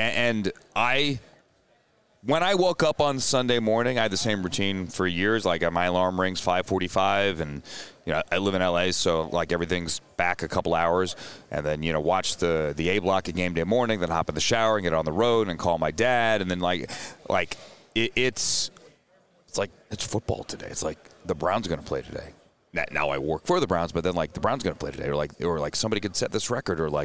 When I woke up on Sunday morning, I had the same routine for years. My alarm rings 5:45, and I live in LA, so everything's back a couple hours, and then watch the A block at game day morning, then hop in the shower and get on the road and call my dad, and then it's football today. It's like the Browns are going to play today. Now I work for the Browns, but then the Browns are going to play today, or somebody could set this record, or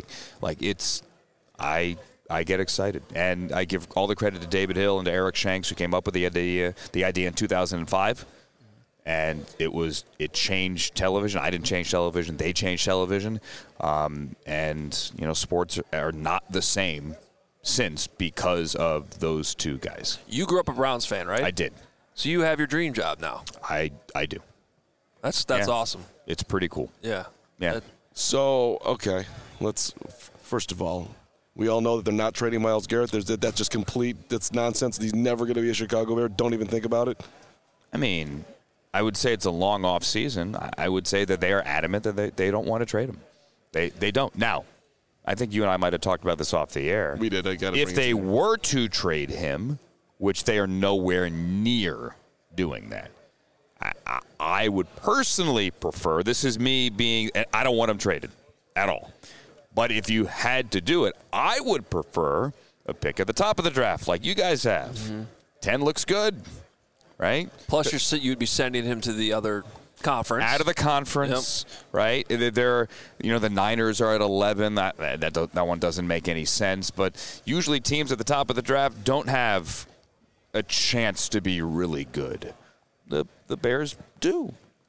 I get excited, and I give all the credit to David Hill and to Eric Shanks, who came up with the idea in 2005, and it changed television. I didn't change television; they changed television, and sports are not the same since, because of those two guys. You grew up a Browns fan, right? I did. So you have your dream job now. I do. That's awesome. It's pretty cool. Yeah. Yeah. So, okay, first of all, we all know that they're not trading Myles Garrett. That's just that's nonsense. He's never going to be a Chicago Bear. Don't even think about it. I mean, I would say it's a long off season. I would say that they are adamant that they don't want to trade him. They don't. Now, I think you and I might have talked about this off the air. We did. If they were to trade him, which they are nowhere near doing that, I would personally prefer, this is me being, I don't want him traded at all. But if you had to do it, I would prefer a pick at the top of the draft like you guys have. 10 looks good, right? Plus, you'd be sending him to the other conference. Out of the conference, right? The Niners are at 11. That one doesn't make any sense. But usually teams at the top of the draft don't have a chance to be really good. The Bears do.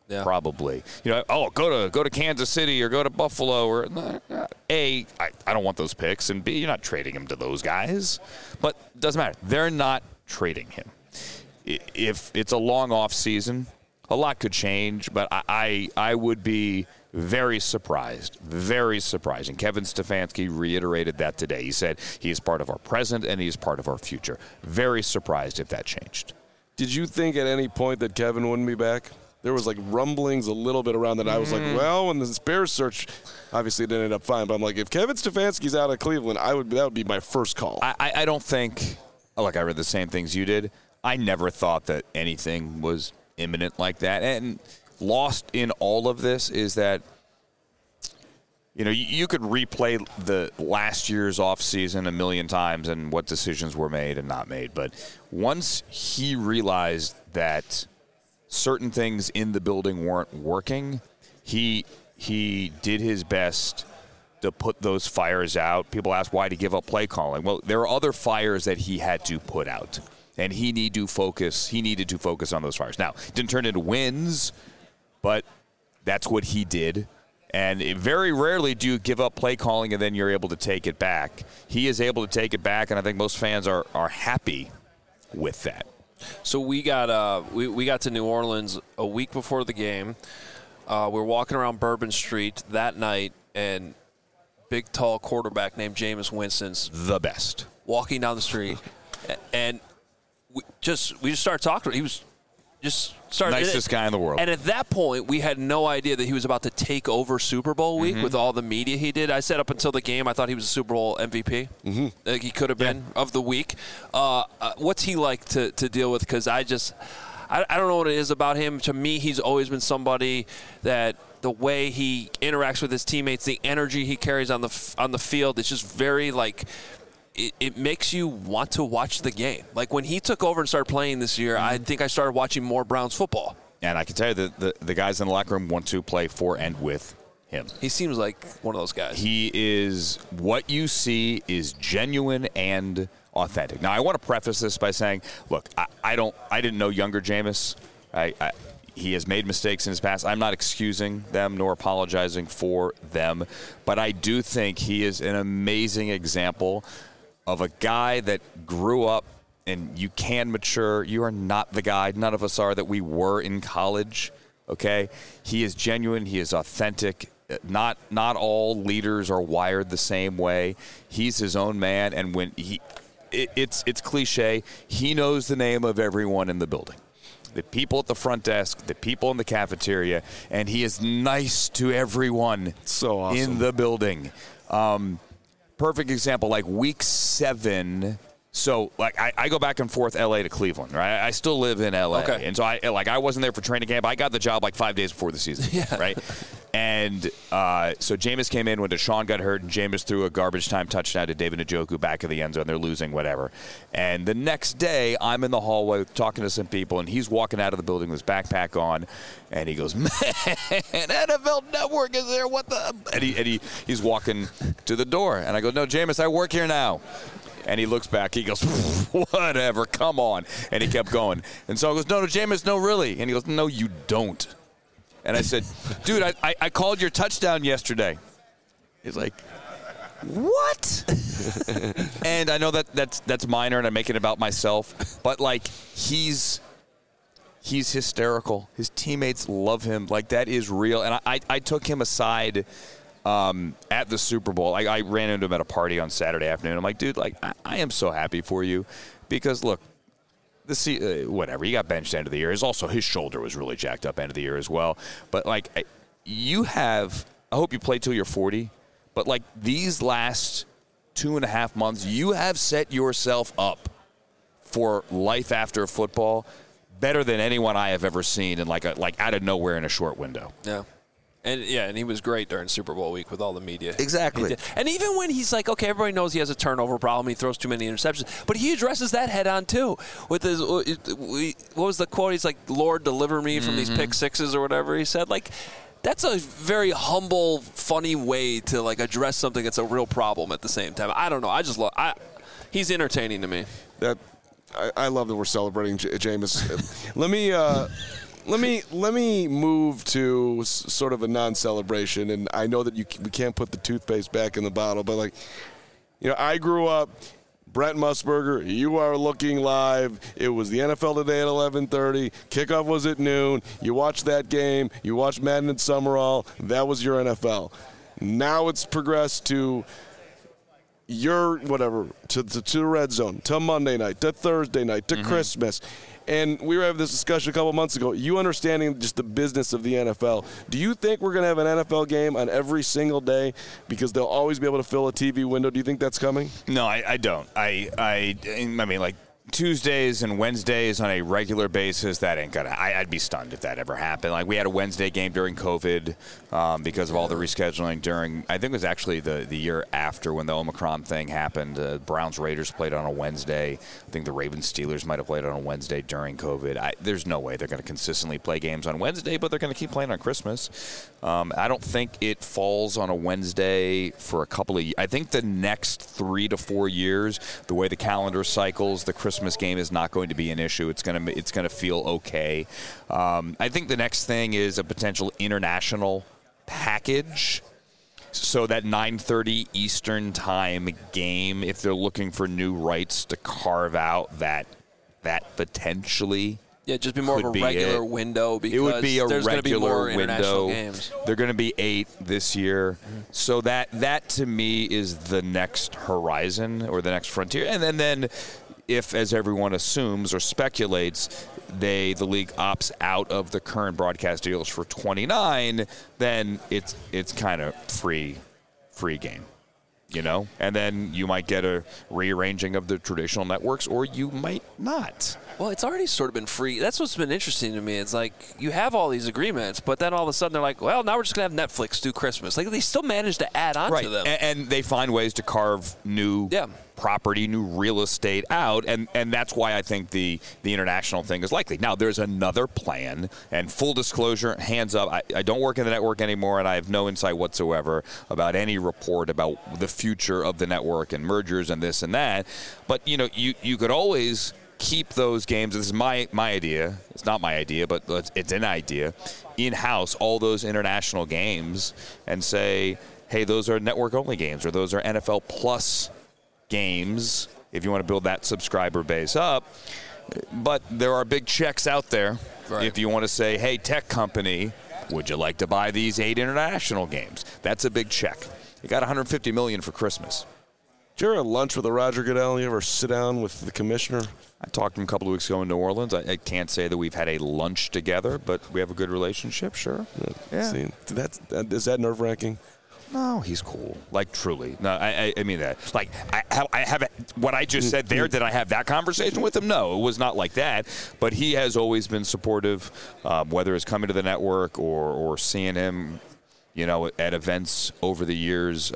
Yeah. Probably. Go to Kansas City or go to Buffalo. Or A, I don't want those picks, and B, you're not trading him to those guys. But it doesn't matter. They're not trading him. If it's a long off season, a lot could change, but I would be very surprised. And Kevin Stefanski reiterated that today. He said he is part of our present and he is part of our future. Very surprised if that changed. Did you think at any point that Kevin wouldn't be back? There was like rumblings a little bit around that. I was like, well, when the Bears search, obviously it ended up fine. But I'm like, if Kevin Stefanski's out of Cleveland, that would be my first call. I don't think, like I read the same things you did. I never thought that anything was imminent like that. And lost in all of this is that, you could replay the last year's offseason a million times and what decisions were made and not made. But once he realized that certain things in the building weren't working, he did his best to put those fires out. People ask why did he give up play calling. Well, there are other fires that he had to put out. And he needed to focus on those fires. Now, it didn't turn into wins, but that's what he did. And very rarely do you give up play calling and then you're able to take it back. He is able to take it back, and I think most fans are happy with that. So we got we got to New Orleans a week before the game. We're walking around Bourbon Street that night, and big, tall quarterback named Jameis Winston's the best walking down the street, and we just started talking. He was just started nicest guy in the world. And at that point, we had no idea that he was about to take over Super Bowl week with all the media he did. I said up until the game, I thought he was a Super Bowl MVP. Like he could have been of the week. What's he like to deal with? Because I don't know what it is about him. To me, he's always been somebody that the way he interacts with his teammates, the energy he carries on the field, it's just very like. It makes you want to watch the game. Like when he took over and started playing this year, I think I started watching more Browns football. And I can tell you that the guys in the locker room want to play for and with him. He seems like one of those guys. He is, what you see is genuine and authentic. Now, I want to preface this by saying, look, I didn't know younger Jameis. He has made mistakes in his past. I'm not excusing them nor apologizing for them, but I do think he is an amazing example of a guy that grew up, and you can mature. You are not the guy, none of us are, that we were in college, okay? He is genuine. He is authentic. Not all leaders are wired the same way. He's his own man, and when it's cliche, he knows the name of everyone in the building. The people at the front desk, the people in the cafeteria, and he is nice to everyone so awesome. In the building. Perfect example, like week 7. So, like, I go back and forth L.A. to Cleveland, right? I still live in L.A. Okay. And so, I wasn't there for training camp. I got the job like 5 days before the season, right? And so Jameis came in when Deshaun got hurt, and Jameis threw a garbage time touchdown to David Njoku back of the end zone. They're losing, whatever. And the next day, I'm in the hallway talking to some people, and he's walking out of the building with his backpack on, and he goes, "Man, NFL Network is there? What the?" And he's walking to the door, and I go, "No, Jameis, I work here now." And he looks back. He goes, "Whatever, come on." And he kept going. And so I goes, "No, Jameis, no, really." And he goes, "No, you don't." And I said, "Dude, I called your touchdown yesterday." He's like, "What?" And I know that's minor, and I'm making it about myself. But, like, he's hysterical. His teammates love him. Like, that is real. And I took him aside at the Super Bowl. I ran into him at a party on Saturday afternoon. I'm like, "Dude, like, I am so happy for you because, look, whatever. He got benched end of the year. His shoulder was really jacked up end of the year as well. But, like, I hope you play till you're 40. But, like, these last 2.5 months, you have set yourself up for life after football better than anyone I have ever seen in, like out of nowhere in a short window." Yeah. And he was great during Super Bowl week with all the media. Exactly. And even when he's like, okay, everybody knows he has a turnover problem, he throws too many interceptions, but he addresses that head on too. With his, what was the quote? He's like, "Lord, deliver me from these pick sixes," or whatever he said. Like, that's a very humble, funny way to like address something that's a real problem at the same time. I don't know. I just love. He's entertaining to me. I love that we're celebrating Jameis. let me move to sort of a non-celebration, and I know that we can't put the toothpaste back in the bottle, but like, I grew up. Brent Musburger, you are looking live. It was the NFL Today at 11:30. Kickoff was at noon. You watched that game. You watched Madden and Summerall. That was your NFL. Now it's progressed to your whatever, to the red zone, to Monday night, to Thursday night, to Christmas. And we were having this discussion a couple months ago. You understanding just the business of the NFL. Do you think we're going to have an NFL game on every single day because they'll always be able to fill a TV window? Do you think that's coming? No, I don't. I mean, like, Tuesdays and Wednesdays on a regular basis, that ain't gonna. I'd be stunned if that ever happened. Like, we had a Wednesday game during COVID because of all the rescheduling during. I think it was actually the year after when the Omicron thing happened. Browns Raiders played on a Wednesday. I think the Ravens Steelers might have played on a Wednesday during COVID. There's no way they're going to consistently play games on Wednesday, but they're going to keep playing on Christmas. I don't think it falls on a Wednesday for a couple of years. I think the next 3 to 4 years, the way the calendar cycles, the Christmas game is not going to be an issue. It's going to feel okay. I think the next thing is a potential international package. So that 9:30 Eastern time game, if they're looking for new rights to carve out that potentially. Yeah, just be more of a regular window because it would be a there's going to be more window. international games. They're going to be 8 this year. So that to me is the next horizon or the next frontier. And then if, as everyone assumes or speculates, the league opts out of the current broadcast deals for 29, then it's kind of free game. And then you might get a rearranging of the traditional networks, or you might not. Well, it's already sort of been free. That's what's been interesting to me. It's like you have all these agreements, but then all of a sudden they're like, well, now we're just going to have Netflix do Christmas. Like, they still manage to add on to them. And they find ways to carve new property, new real estate out, and that's why I think the international thing is likely. Now, there's another plan, and full disclosure, hands up, I don't work in the network anymore, and I have no insight whatsoever about any report about the future of the network and mergers and this and that. But, you could always keep those games. This is my idea. It's not my idea, but it's an idea. In-house, all those international games, and say, hey, those are network-only games, or those are NFL Plus games, if you want to build that subscriber base up. But there are big checks out there. Right. If you want to say, hey, tech company, would you like to buy these 8 international games? That's a big check. You got $150 million for Christmas. Did you ever have lunch with Roger Goodell? You ever sit down with the commissioner? I talked to him a couple of weeks ago in New Orleans. I can't say that we've had a lunch together, but we have a good relationship, sure. Yeah. See, is that nerve-wracking? No, he's cool. Like, truly. No, I mean that. Like, I have what I just said there. Did I have that conversation with him? No, it was not like that. But he has always been supportive, whether it's coming to the network or seeing him, at events over the years.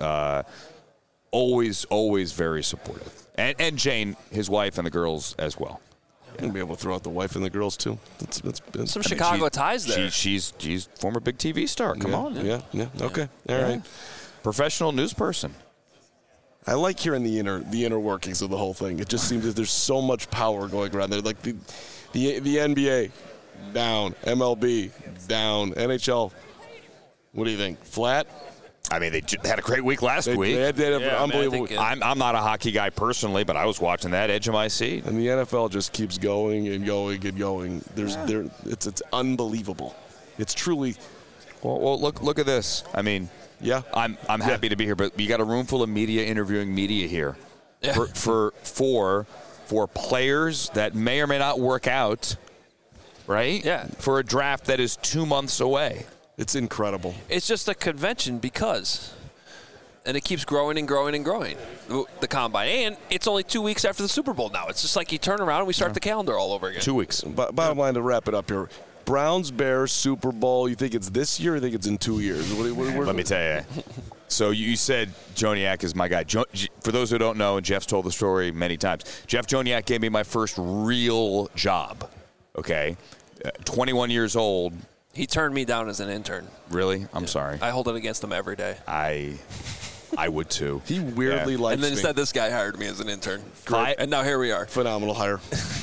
Always very supportive. And Jane, his wife, and the girls as well. You're going to be able to throw out the wife and the girls, too. That's some Chicago ties there. She's former big TV star. Come on. Yeah. Okay. All right. Professional news person. I like hearing the inner workings of the whole thing. It just seems that there's so much power going around there. Like the NBA, down. MLB, down. NHL, what do you think? Flat? I mean, they had a great week last week. They had an unbelievable week. I'm not a hockey guy personally, but I was watching that edge of my seat. And the NFL just keeps going and going and going. It's unbelievable. It's truly. Well, look at this. I mean, yeah, I'm happy to be here, but you got a room full of media interviewing media here for players that may or may not work out, right? Yeah. For a draft that is 2 months away. It's incredible. It's just a convention because, and it keeps growing and growing and growing, the Combine. And it's only 2 weeks after the Super Bowl now. It's just like you turn around and we start the calendar all over again. 2 weeks. Bottom line, to wrap it up here, Browns, Bears, Super Bowl, you think it's this year or you think it's in 2 years? Let me tell you. So you said Joniak is my guy. For those who don't know, and Jeff's told the story many times, Jeff Joniak gave me my first real job, okay? 21 years old. He turned me down as an intern. Really? I'm sorry. I hold it against him every day. I would too. He weirdly likes me. And then instead this guy hired me as an intern. And now here we are. Phenomenal hire.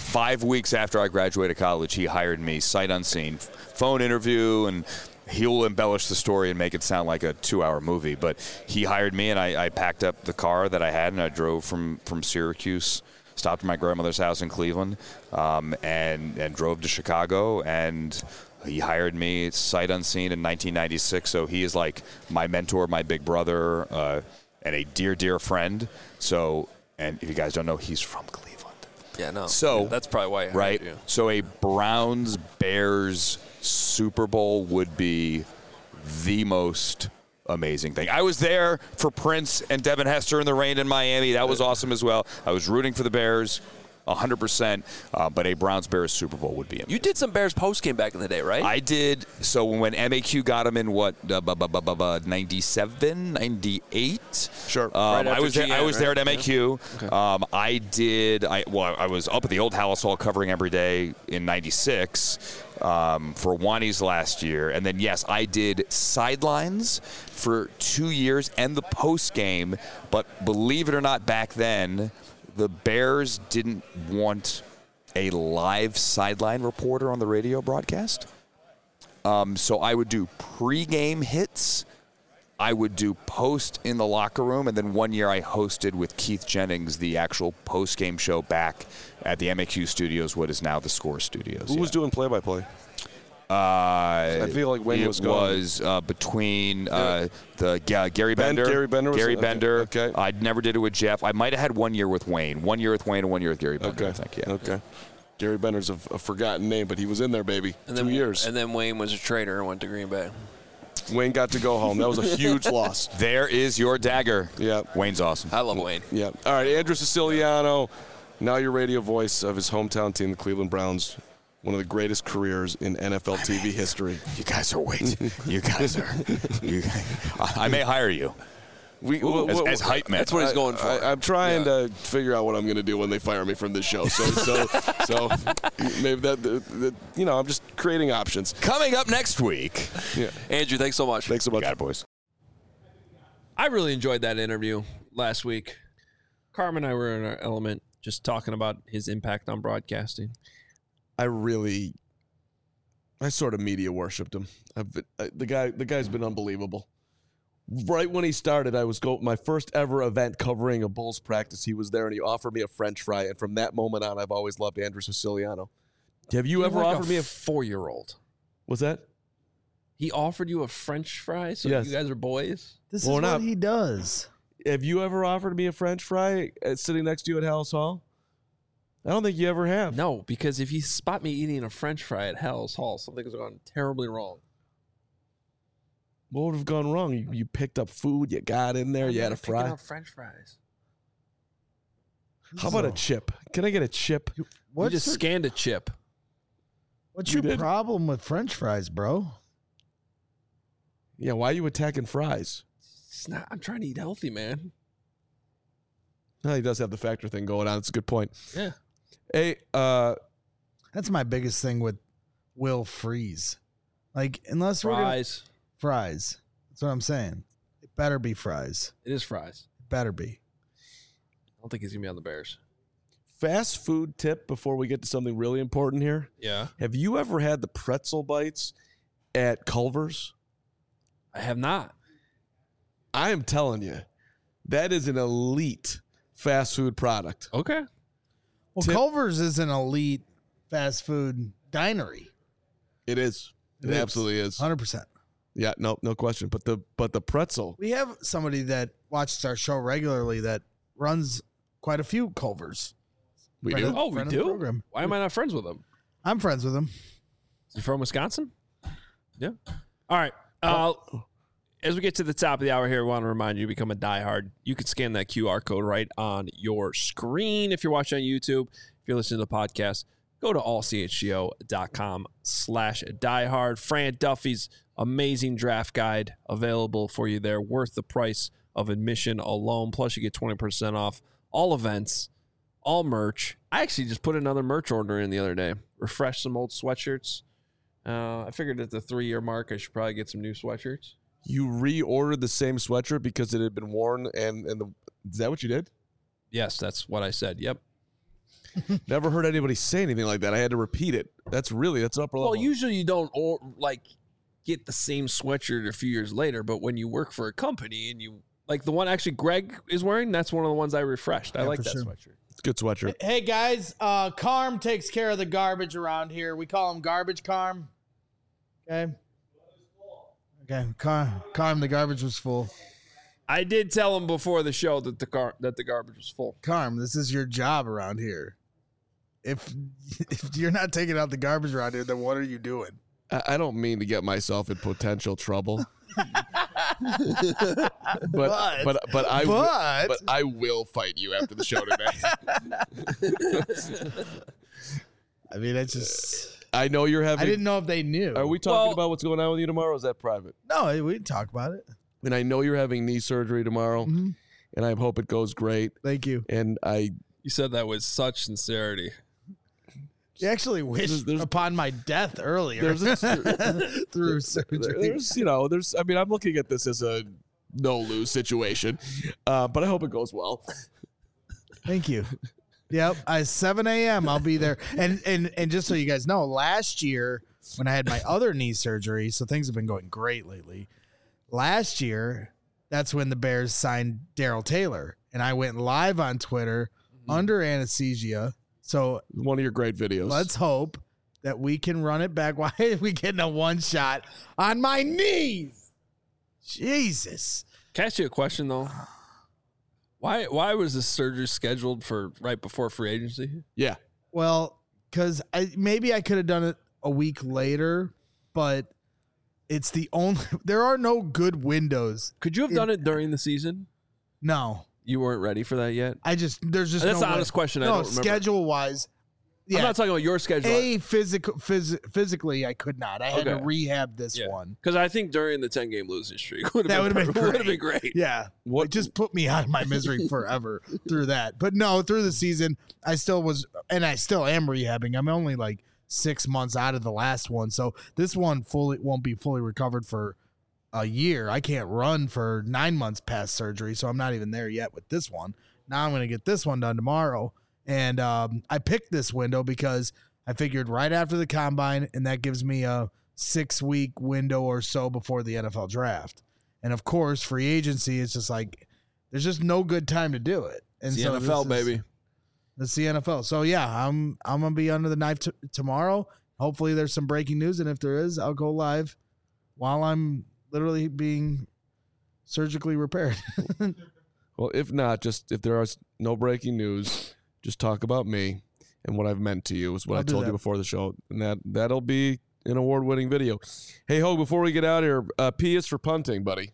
5 weeks after I graduated college, he hired me sight unseen, phone interview, and he'll embellish the story and make it sound like a 2-hour movie. But he hired me, and I packed up the car that I had, and I drove from Syracuse, stopped at my grandmother's house in Cleveland, and drove to Chicago. And he hired me sight unseen in 1996. So he is like my mentor, my big brother, and a dear, dear friend. So, and if you guys don't know, he's from Cleveland. Yeah, no. So that's probably why. Right. So a Browns-Bears Super Bowl would be the most amazing thing. I was there for Prince and Devin Hester in the rain in Miami. That was awesome as well. I was rooting for the Bears 100%, but a Browns-Bears Super Bowl would be amazing. You did some Bears postgame back in the day, right? I did. So when MAQ got him in 97, 98? Sure. Right I was there. GM, I was there at right? MAQ. Yeah. Okay. I was up at the old Hallis Hall covering every day in 96 for Wani's last year. And then, yes, I did sidelines for 2 years and the post game. But believe it or not, back then, the Bears didn't want a live sideline reporter on the radio broadcast. So I would do pregame hits. I would do post in the locker room. And then one year I hosted with Keith Jennings the actual post-game show back at the MAQ studios, what is now the Score studios. Who was doing play-by-play? I feel like Wayne was gone. It was between Gary Bender. Gary Bender was Gary it? Bender. Okay. I never did it with Jeff. I might have had 1 year with Wayne. 1 year with Wayne and 1 year with Gary Bender, I think, yeah. Okay. Gary Bender's a forgotten name, but he was in there, baby. And 2 years. And then Wayne was a traitor and went to Green Bay. Wayne got to go home. That was a huge loss. There is your dagger. Yeah. Wayne's awesome. I love Wayne. Yeah. All right, Andrew Siciliano, now your radio voice of his hometown team, the Cleveland Browns. One of the greatest careers in NFL TV history. You guys are I may hire you. As hype man. That's what he's going for. I'm trying to figure out what I'm going to do when they fire me from this show. So maybe that I'm just creating options. Coming up next week. Yeah. Andrew, thanks so much. Thanks so much. Got it, boys. I really enjoyed that interview last week. Carmen and I were in our element just talking about his impact on broadcasting. I sort of media worshipped him. The guy's been unbelievable. Right when he started, I was my first ever event covering a Bulls practice. He was there and he offered me a French fry, and from that moment on, I've always loved Andrew Siciliano. Have you ever offered me a 4-year-old? What's that? He offered you a French fry, so Yes. you guys are boys. This is what he does. Have you ever offered me a French fry sitting next to you at Hallis Hall? I don't think you ever have. No, because if you spot me eating a French fry at Hallis Hall, something's gone terribly wrong. What would have gone wrong? You picked up food, you got in there, you had a fry. Picking up French fries. How about a chip? Can I get a chip? You just scanned a chip. What's You your did? problem with French fries, bro? Yeah, why are you attacking fries? It's not, I'm trying to eat healthy, man. No, he does have the factor thing going on. It's a good point. Yeah. Hey, That's my biggest thing with Will Freeze. Like, unless we're gonna, fries. That's what I'm saying. It better be fries. It is fries. It better be. I don't think he's going to be on the Bears. fast food tip before we get to something really important here. Yeah. Have you ever had the pretzel bites at Culver's? I have not. I am telling you, that is an elite fast food product. Okay. Well, Culver's is an elite fast food dinery. It is. It absolutely is. 100%. Yeah, no question. But the pretzel. We have somebody that watches our show regularly that runs quite a few Culver's. We do. Oh, we friend of the do? program. Why am I not friends with him? I'm friends with him. Is he from Wisconsin? Yeah. All right. As we get to the top of the hour here, we want to remind you to become a diehard. You can scan that QR code right on your screen if you're watching on YouTube. If you're listening to the podcast, go to allchgo.com/diehard. Fran Duffy's amazing draft guide available for you there, worth the price of admission alone. Plus, you get 20% off all events, all merch. I actually just put another merch order in the other day. Refreshed some old sweatshirts. I figured at the 3-year mark, I should probably get some new sweatshirts. You reordered the same sweatshirt because it had been worn, is that what you did? Yes, that's what I said. Yep. Never heard anybody say anything like that. I had to repeat it. That's upper level. Well, usually you don't get the same sweatshirt a few years later, but when you work for a company and you like the one actually Greg is wearing, that's one of the ones I refreshed. I like that sweatshirt. It's a good sweatshirt. Hey guys, Carm takes care of the garbage around here. We call him Garbage Carm. Okay. Carm, the garbage was full. I did tell him before the show that the garbage was full. Carm, this is your job around here. If you're not taking out the garbage around here, then what are you doing? I don't mean to get myself in potential trouble. but I will fight you after the show today. I mean, it's just. I know you're having. I didn't know if they knew. Are we talking about what's going on with you tomorrow? Or is that private? No, we didn't talk about it. And I know you're having knee surgery tomorrow, and I hope it goes great. Thank you. And You said that with such sincerity. You actually wished upon my death earlier through surgery. I'm looking at this as a no-lose situation, but I hope it goes well. Thank you. Yep, 7 a.m. I'll be there. And just so you guys know, last year when I had my other knee surgery, so things have been going great lately. Last year, that's when the Bears signed Darrell Taylor, and I went live on Twitter under anesthesia. So one of your great videos. Let's hope that we can run it back. Why are we getting a one shot on my knees? Jesus. Can I ask you a question though? Why was this surgery scheduled for right before free agency? Yeah. Well, because maybe I could have done it a week later, but it's the only. There are no good windows. Could you have done it during the season? No. You weren't ready for that yet? There's just that's no an honest question. I don't remember. Schedule wise. Yeah. I'm not talking about your schedule. Physically, I could not. I had to rehab this one. Because I think during the 10-game losing streak would have been great. Yeah. It just put me out of my misery forever through that. But no, through the season, I still was, and I still am rehabbing. I'm only like 6 months out of the last one. So this one won't be fully recovered for a year. I can't run for 9 months past surgery, so I'm not even there yet with this one. Now I'm going to get this one done tomorrow. And I picked this window because I figured right after the combine, and that gives me a 6-week window or so before the NFL draft. And of course, free agency is just like, there's just no good time to do it. And it's the NFL, baby. It's the NFL. So yeah, I'm going to be under the knife tomorrow. Hopefully there's some breaking news. And if there is, I'll go live while I'm literally being surgically repaired. Well, if not, just if there is no breaking news, just talk about me and what I've meant to you is what I told you before the show. And that'll be an award-winning video. Hey, Hogue, before we get out here, P is for punting, buddy.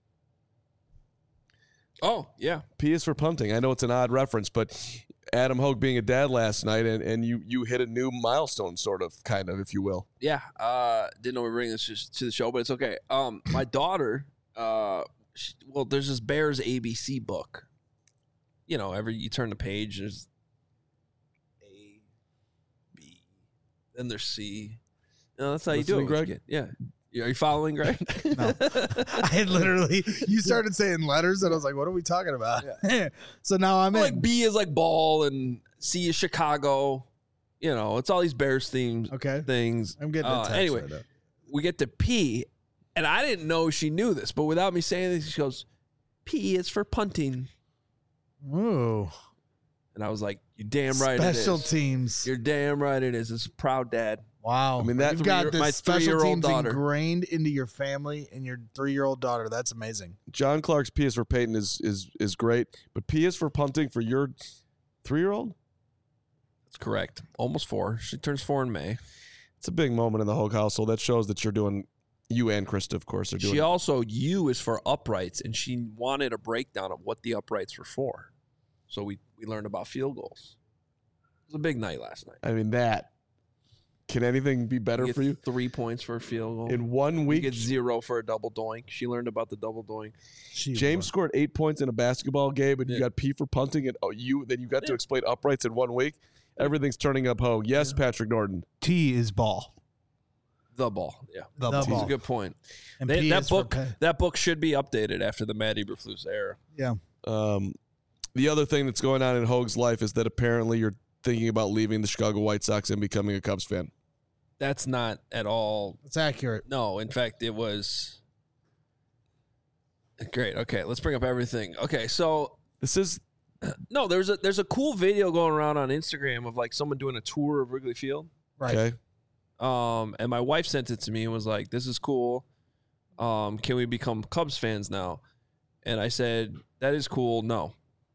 Oh, yeah. P is for punting. I know it's an odd reference, but Adam Hogue being a dad last night, and you hit a new milestone, sort of, kind of, if you will. Yeah. Didn't know we were bringing this to the show, but it's okay. My daughter, there's this Bears ABC book. You know, you turn the page, there's A, B, then there's C. That's how you do it, Greg. Yeah. Are you following, Greg? No. I literally, you started saying letters, and I was like, what are we talking about? Yeah. So now I'm like B is like ball, and C is Chicago. You know, it's all these Bears things. I'm getting a text anyway, right up. We get to P, and I didn't know she knew this, but without me saying this, she goes, P is for punting. Ooh. And I was like, you're damn right it is. Special teams. You're damn right it is. It's a proud dad. Wow. I mean, you've got this my special 3-year-old teams daughter ingrained into your family and your 3-year-old daughter. That's amazing. John Clark's P is for Peyton is great, but P is for punting for your 3-year-old? That's correct. Almost 4. She turns 4 in May. It's a big moment in the Hogue household. That shows that you're doing, you and Krista, of course, are doing. She also, U is for uprights, and she wanted a breakdown of what the uprights were for. So we learned about field goals. It was a big night last night. I mean, can anything be better for you? 3 points for a field goal. In 1 week. You get 0 for a double doink. She learned about the double doink. James scored 8 points in a basketball game, and you got P for punting, and then you got to explain uprights in 1 week. Everything's turning up, Hogue. Yes, Patrick Norton. T is ball. The ball, yeah. The ball. That's a good point. And that book should be updated after the Matt Eberflus era. Yeah. The other thing that's going on in Hogue's life is that apparently your thinking about leaving the Chicago White Sox and becoming a Cubs fan? That's not at all. It's accurate. No, in fact, it was great. Okay, let's bring up everything. Okay, so This is no, there's a cool video going around on Instagram of like someone doing a tour of Wrigley Field. Right. okay. And my wife sent it to me and was like, "This is cool. Can we become Cubs fans now?" And I said, "That is cool. No."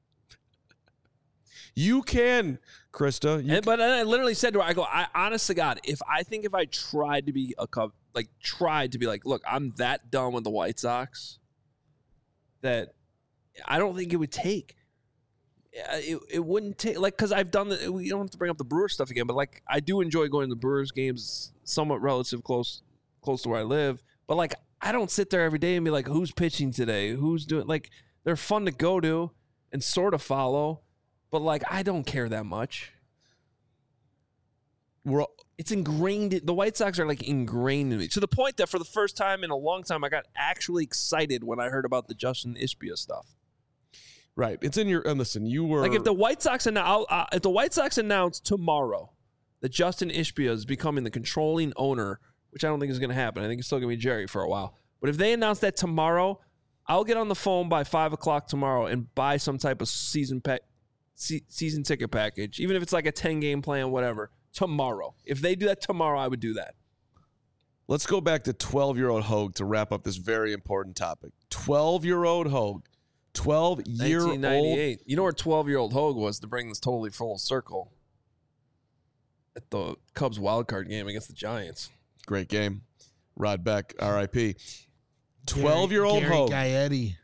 You can, Krista. But then I literally said to her, I honest to God, if I tried to be a Cub, look, I'm that done with the White Sox that I don't think it would take. It wouldn't take, like, because I've done the, we don't have to bring up the Brewers stuff again, but like, I do enjoy going to the Brewers games, somewhat close to where I live. But like, I don't sit there every day and be like, who's pitching today? Who's doing, like, they're fun to go to and sort of follow. But, like, I don't care that much. It's ingrained. The White Sox are, like, ingrained in me. To the point that for the first time in a long time, I got actually excited when I heard about the Justin Ishbia stuff. Right. It's in your, and listen, you were. Like, if the White Sox announce tomorrow that Justin Ishbia is becoming the controlling owner, which I don't think is going to happen. I think it's still going to be Jerry for a while. But if they announce that tomorrow, I'll get on the phone by 5 o'clock tomorrow and buy some type of season ticket package, even if it's like a 10-game plan, whatever, tomorrow. If they do that tomorrow, I would do that. Let's go back to 12-year-old Hogue to wrap up this very important topic. 12-year-old Hogue. 12-year-old. 1998. You know where 12-year-old Hogue was to bring this totally full circle? At the Cubs wildcard game against the Giants. Great game. Rod Beck, R.I.P. 12-year-old Hogue. Gaetti.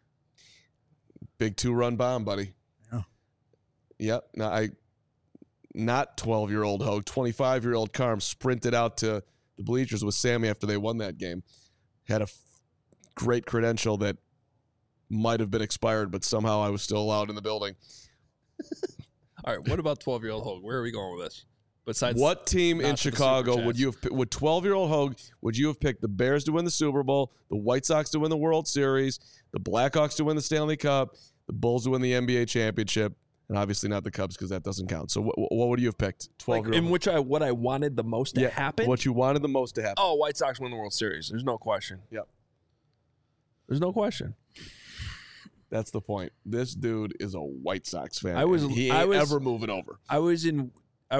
Big 2-run bomb, buddy. Yep. Now, not 12-year-old Hogue, 25-year-old Carm sprinted out to the bleachers with Sammy after they won that game. Had a great credential that might have been expired, but somehow I was still allowed in the building. All right, what about 12-year-old Hogue? Where are we going with this? Besides, what team in Chicago would you have? Would 12-year-old Hogue? Would you have picked the Bears to win the Super Bowl, the White Sox to win the World Series, the Blackhawks to win the Stanley Cup, the Bulls to win the NBA championship? And obviously not the Cubs because that doesn't count. So what would you have picked? 12-year-old. In which what I wanted the most to happen? What you wanted the most to happen. Oh, White Sox win the World Series. There's no question. Yep. There's no question. That's the point. This dude is a White Sox fan. He ain't ever moving over. I was in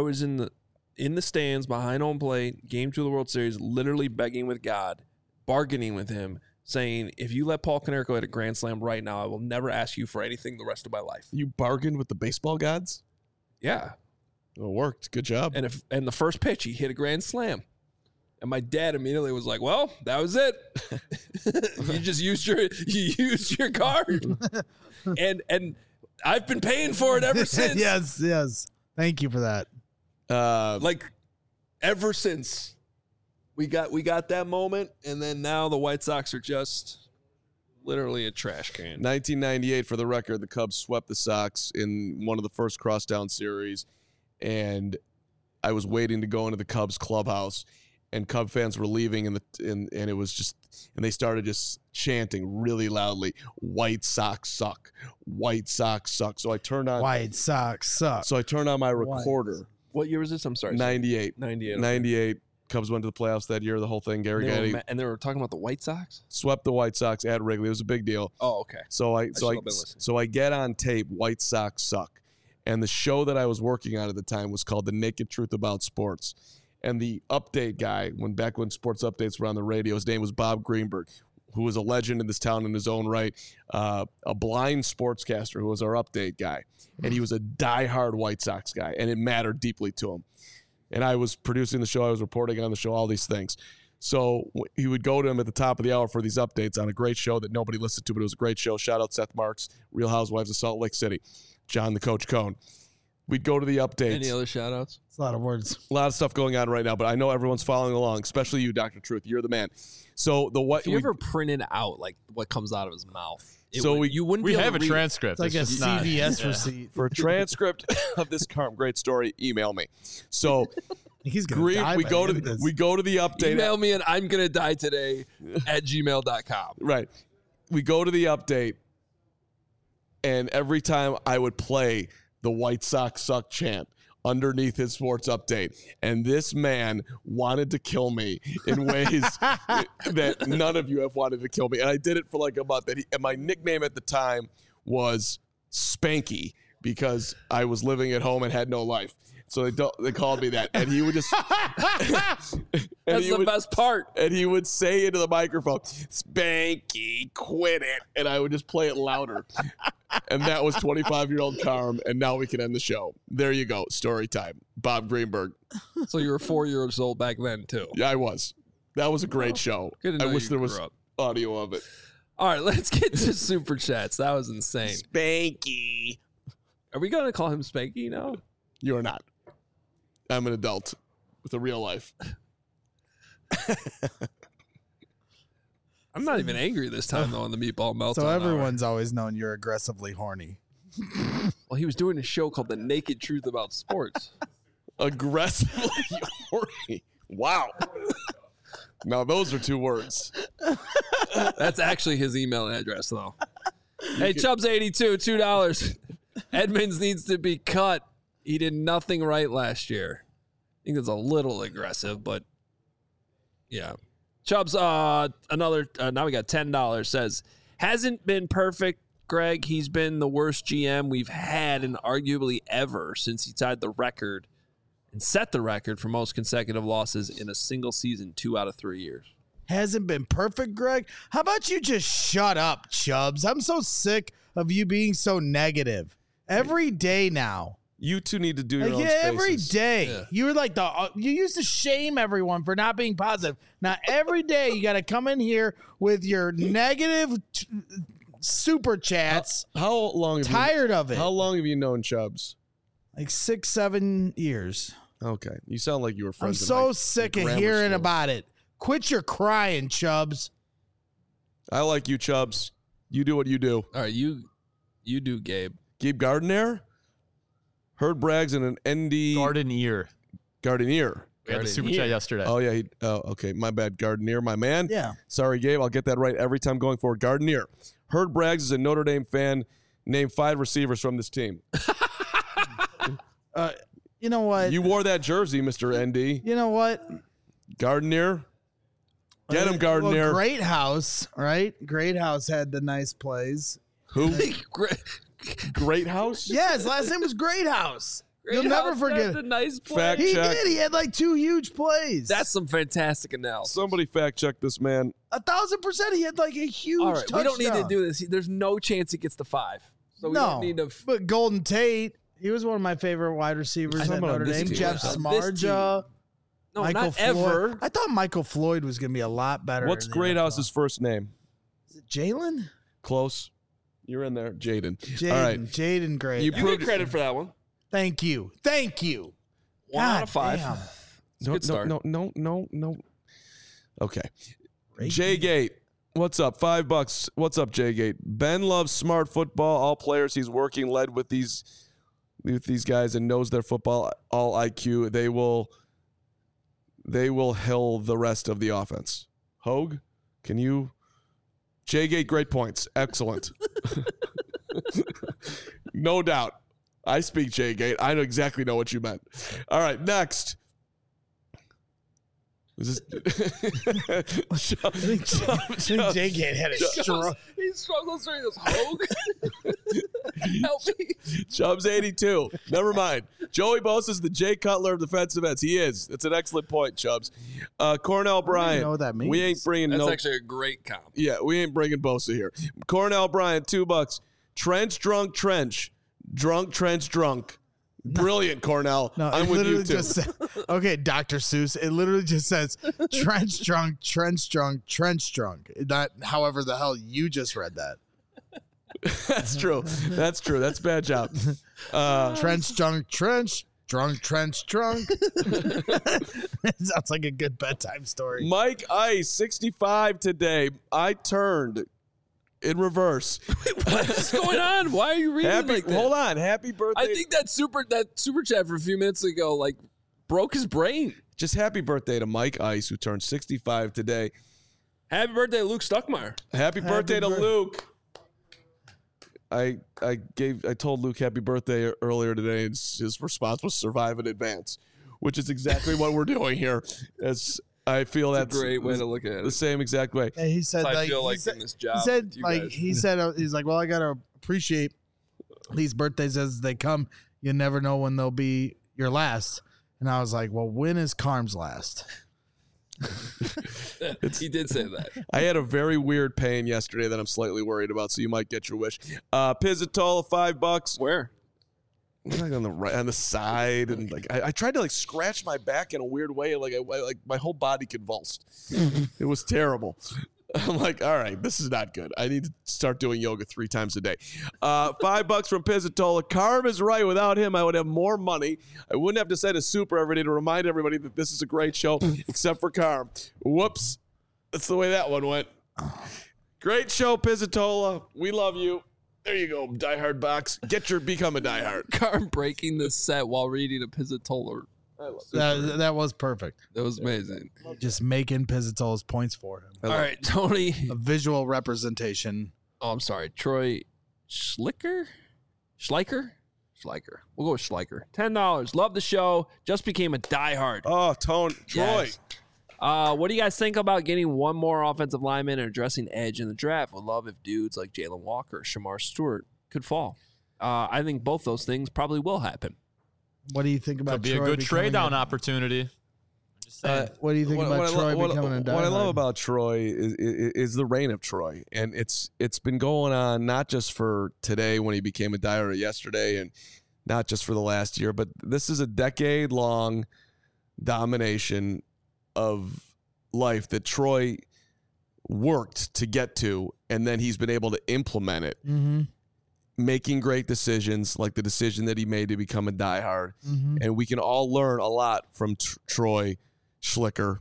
the stands behind home plate, game 2 of the World Series, literally begging with God, bargaining with him, saying, if you let Paul Konerko hit a grand slam right now, I will never ask you for anything the rest of my life. You bargained with the baseball gods? Yeah. It worked. Good job. And the first pitch, he hit a grand slam. And my dad immediately was like, well, that was it. You used your card. and I've been paying for it ever since. Yes. Thank you for that. Like ever since. We got that moment, and then now the White Sox are just literally a trash can. 1998, for the record, the Cubs swept the Sox in one of the first crosstown series, and I was waiting to go into the Cubs clubhouse, and Cub fans were leaving, and it was just, and they started just chanting really loudly, "White Sox suck, White Sox suck." So I turned on White Sox suck. So I turned on my recorder. What year was this? I'm sorry. 98. 98. Okay. 98. Cubs went to the playoffs that year, the whole thing. Gary Getty. And they were talking about the White Sox? Swept the White Sox at Wrigley. It was a big deal. Oh, okay. So I get on tape, White Sox suck. And the show that I was working on at the time was called The Naked Truth About Sports. And the update guy, back when sports updates were on the radio, his name was Bob Greenberg, who was a legend in this town in his own right, a blind sportscaster who was our update guy. And he was a diehard White Sox guy, and it mattered deeply to him. And I was producing the show, I was reporting on the show, all these things. So he would go to him at the top of the hour for these updates on a great show that nobody listened to, but it was a great show. Shout out Seth Marks, Real Housewives of Salt Lake City, John the Coach Cohn. We'd go to the updates. Any other shout outs? It's a lot of words. A lot of stuff going on right now, but I know everyone's following along, especially you, Dr. Truth. You're the man. So if you ever printed out like what comes out of his mouth, you wouldn't. We be have able a to transcript. It's like a CVS receipt. For a transcript of this great story, email me. So he's gonna die we go to the update. Email me and I'm gonna die today at gmail.com. Right. We go to the update, and every time I would play the White Sox suck chant, underneath his sports update. And this man wanted to kill me in ways that none of you have wanted to kill me. And I did it for like a month. And my nickname at the time was Spanky because I was living at home and had no life. So they called me that. And he would just... That's the best part. And he would say into the microphone, Spanky, quit it. And I would just play it louder. And that was 25-year-old Carm. And now we can end the show. There you go. Story time. Bob Greenberg. So you were 4 years old back then, too. Yeah, I was. That was a great show. Good to know I wish you there was grew up. audio of it. All right, let's get to Super Chats. That was insane. Spanky. Are we going to call him Spanky now? You are not. I'm an adult with a real life. I'm not even angry this time, though, on the Meatball Meltdown. So everyone's always known you're aggressively horny. Well, he was doing a show called The Naked Truth About Sports. Aggressively horny. Wow. Now, those are 2 words. That's actually his email address, though. Hey, Chubbs82, $2. Edmonds needs to be cut. He did nothing right last year. I think that's a little aggressive, but yeah. Chubbs, another, now we got $10, says, hasn't been perfect, Greg. He's been the worst GM we've had and arguably ever since he tied the record and set the record for most consecutive losses in a single season 2 out of 3 years. Hasn't been perfect, Greg? How about you just shut up, Chubbs? I'm so sick of you being so negative. Every day now. You two need to do your own spaces. Every day. Yeah. You were like you used to shame everyone for not being positive. Now every day you got to come in here with your negative super chats. How long? Tired of it. How long have you known Chubbs? Like 6-7 years. Okay, you sound like you were friends. I'm so sick of hearing about it. Quit your crying, Chubbs. I like you, Chubbs. You do what you do. All right, you do, Gabe. Gabe Gardner. Heard Braggs in an ND Gardenier. We had the super chat yesterday. Oh yeah. Okay. My bad. Gardenier, my man. Yeah. Sorry, Gabe. I'll get that right every time going forward. Gardenier. Heard Braggs is a Notre Dame fan. Name 5 receivers from this team. You know what? You wore that jersey, Mr. ND. You know what? Gardenier. Get him, Gardenier. Well, Great House, right? Great House had the nice plays. Who? Great House? Yeah, his last name was Great House. You'll never forget a nice play. Fact He check. did. He had like 2 huge plays. That's some fantastic analysis. Somebody fact check this man. 1,000%. He had like a huge All right, touchdown. we don't need to do this. There's no chance he gets the 5. So we don't need to. But Golden Tate, he was one of my favorite wide receivers at Notre Dame. Jeff Smarja. No, Michael not Floyd. ever. I thought Michael Floyd was going to be a lot better. What's Great House's first name? Is it Jalen? Close. You're in there. Jaden. Jaden. All right. Jaden Great. You get credit for that one. Thank you. 1 out of 5. Damn. It's a good start. No. Okay. Jay Gate. What's up? $5. What's up, Jay Gate? Ben loves smart football. All players he's working led with these guys and knows their football, all IQ. They will hill the rest of the offense. Hogue, can you? Jay Gate, great points. Excellent. No doubt. I speak Jay Gate. I exactly know what you meant. All right, next. Is this I think Jay Gate had a stroke. He struggles during this. Hogue. Help me. Chubbs 82. Never mind. Joey Bosa's the Jay Cutler of defensive ends. He is. It's an excellent point, Chubbs. Cornell Bryant. know what that means. We ain't bringing That's actually a great comp. Yeah, we ain't bringing Bosa here. Cornell Bryant, $2. Trench drunk trench. Drunk trench drunk. Brilliant, Cornell. No, I'm it with literally you too. just said, okay, Dr. Seuss. It literally just says trench drunk, trench drunk, trench drunk. Not however the hell you just read that. That's true. That's true. That's a bad job. Trench drunk, trench drunk, trench drunk. It sounds like a good bedtime story. Mike Ice, 65 today. I turned in reverse. What's going on? Why are you reading like that? Hold on. Happy birthday. I think that super chat for a few minutes ago broke his brain. Just happy birthday to Mike Ice, who turned 65 today. Happy birthday, Luke Stuckmeyer. Happy birthday to Luke. I told Luke happy birthday earlier today, and his response was survive in advance, which is exactly what we're doing here. I feel that's a great way to look at it. The same exact way. And he said, I feel like in this job. he's like, well, I gotta appreciate these birthdays as they come. You never know when they'll be your last. And I was like, well, when is Carm's last? He did say that. I had a very weird pain yesterday that I'm slightly worried about, so you might get your wish. Pizzatola, $5. Where? Like on the side, and like I tried to like scratch my back in a weird way, like my whole body convulsed. It was terrible. I'm like, all right, this is not good. I need to start doing yoga 3 times a day. $5 from Pizzatola. Carm is right. Without him, I would have more money. I wouldn't have to say a super every day to remind everybody that this is a great show, except for Carm. Whoops. That's the way that one went. Great show, Pizzatola. We love you. There you go, diehard box. Become a diehard. Carm breaking the set while reading a Pizzatola. That was perfect. That was amazing. Just making Pizzatola's points for him. All right, Tony. A visual representation. Oh, I'm sorry. Troy Schleicher? We'll go with Schleicher. $10. Love the show. Just became a diehard. Oh, Troy. Yes. What do you guys think about getting one more offensive lineman and addressing edge in the draft? Would love if dudes like Jalen Walker or Shamar Stewart could fall. I think both those things probably will happen. What do you think about Could be Troy a good trade down opportunity. What do you think about Troy becoming a diehard? What I love about Troy is the reign of Troy, and it's been going on not just for today when he became a diehard yesterday, and not just for the last year, but this is a decade-long domination of life that Troy worked to get to, and then he's been able to implement it. Mm-hmm. Making great decisions, like the decision that he made to become a diehard. Mm-hmm. And we can all learn a lot from Troy Schleicher.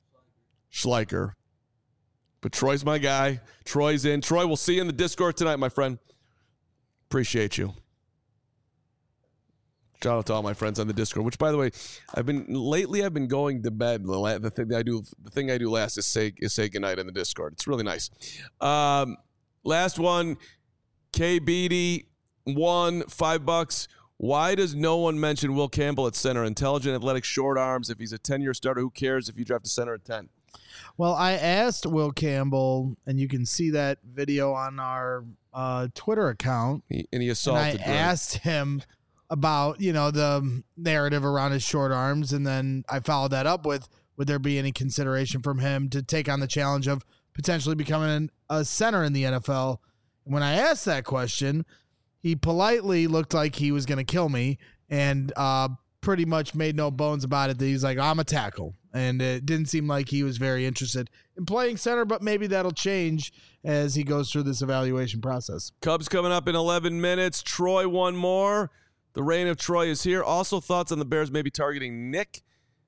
But Troy's my guy. Troy's in. Troy, we'll see you in the Discord tonight, my friend. Appreciate you. Shout out to all my friends on the Discord, which, by the way, I've been going to bed. The thing I do last is say goodnight in the Discord. It's really nice. Last one. K. Beatty won $5. Why does no one mention Will Campbell at center? Intelligent, athletic, short arms. If he's a 10-year starter, who cares if you draft a center at 10? Well, I asked Will Campbell, and you can see that video on our Twitter account. He assaulted. And I asked him about, the narrative around his short arms, and then I followed that up with, would there be any consideration from him to take on the challenge of potentially becoming a center in the NFL? When I asked that question, he politely looked like he was going to kill me and pretty much made no bones about it that he's like, I'm a tackle. And it didn't seem like he was very interested in playing center, but maybe that'll change as he goes through this evaluation process. Cubs coming up in 11 minutes. Troy, one more. The reign of Troy is here. Also thoughts on the Bears maybe targeting Nick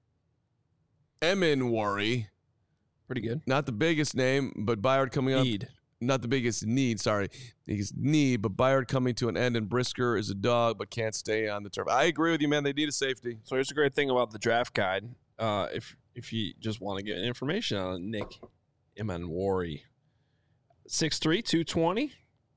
Emenwari. Pretty good. Not the biggest name, but Byard coming up. Not the biggest need, but Byard coming to an end, and Brisker is a dog but can't stay on the turf. I agree with you, man. They need a safety. So here's a great thing about the draft guide. If you just want to get information on Nick Emenwari, 6'3", 220.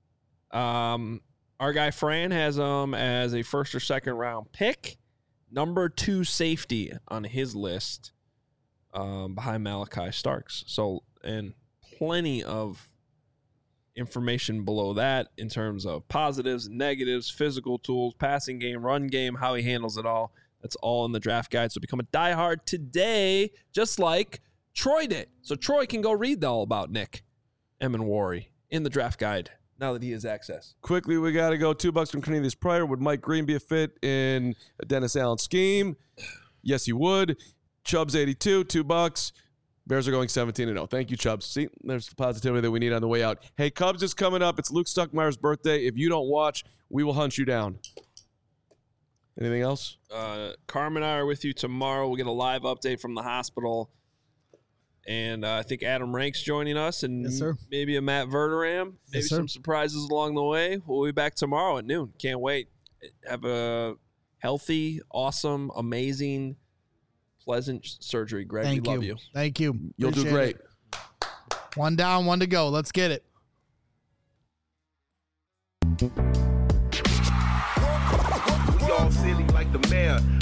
Our guy Fran has him as a first or second round pick, number 2 safety on his list, behind Malachi Starks. So, and plenty of information below that in terms of positives, negatives, physical tools, passing game, run game, how he handles it all. That's all in the draft guide. So become a diehard today, just like Troy did. So Troy can go read all about Nick Emenwari in the draft guide now that he has access. Quickly, we got to go. $2 from Cornelius Pryor. Would Mike Green be a fit in a Dennis Allen scheme? Yes, he would. Chubbs 82, $2. Bears are going 17-0. Thank you, Chubbs. See, there's the positivity that we need on the way out. Hey, Cubs is coming up. It's Luke Stuckmeyer's birthday. If you don't watch, we will hunt you down. Anything else? Carm and I are with you tomorrow. We'll get a live update from the hospital. And I think Adam Rank's joining us, and yes, sir. Maybe a Matt Verderam. Maybe some surprises along the way. We'll be back tomorrow at noon. Can't wait. Have a healthy, awesome, amazing, pleasant surgery, Greg. We love you. Thank you. You'll do great. One down, one to go. Let's get it. We all silly like the mayor.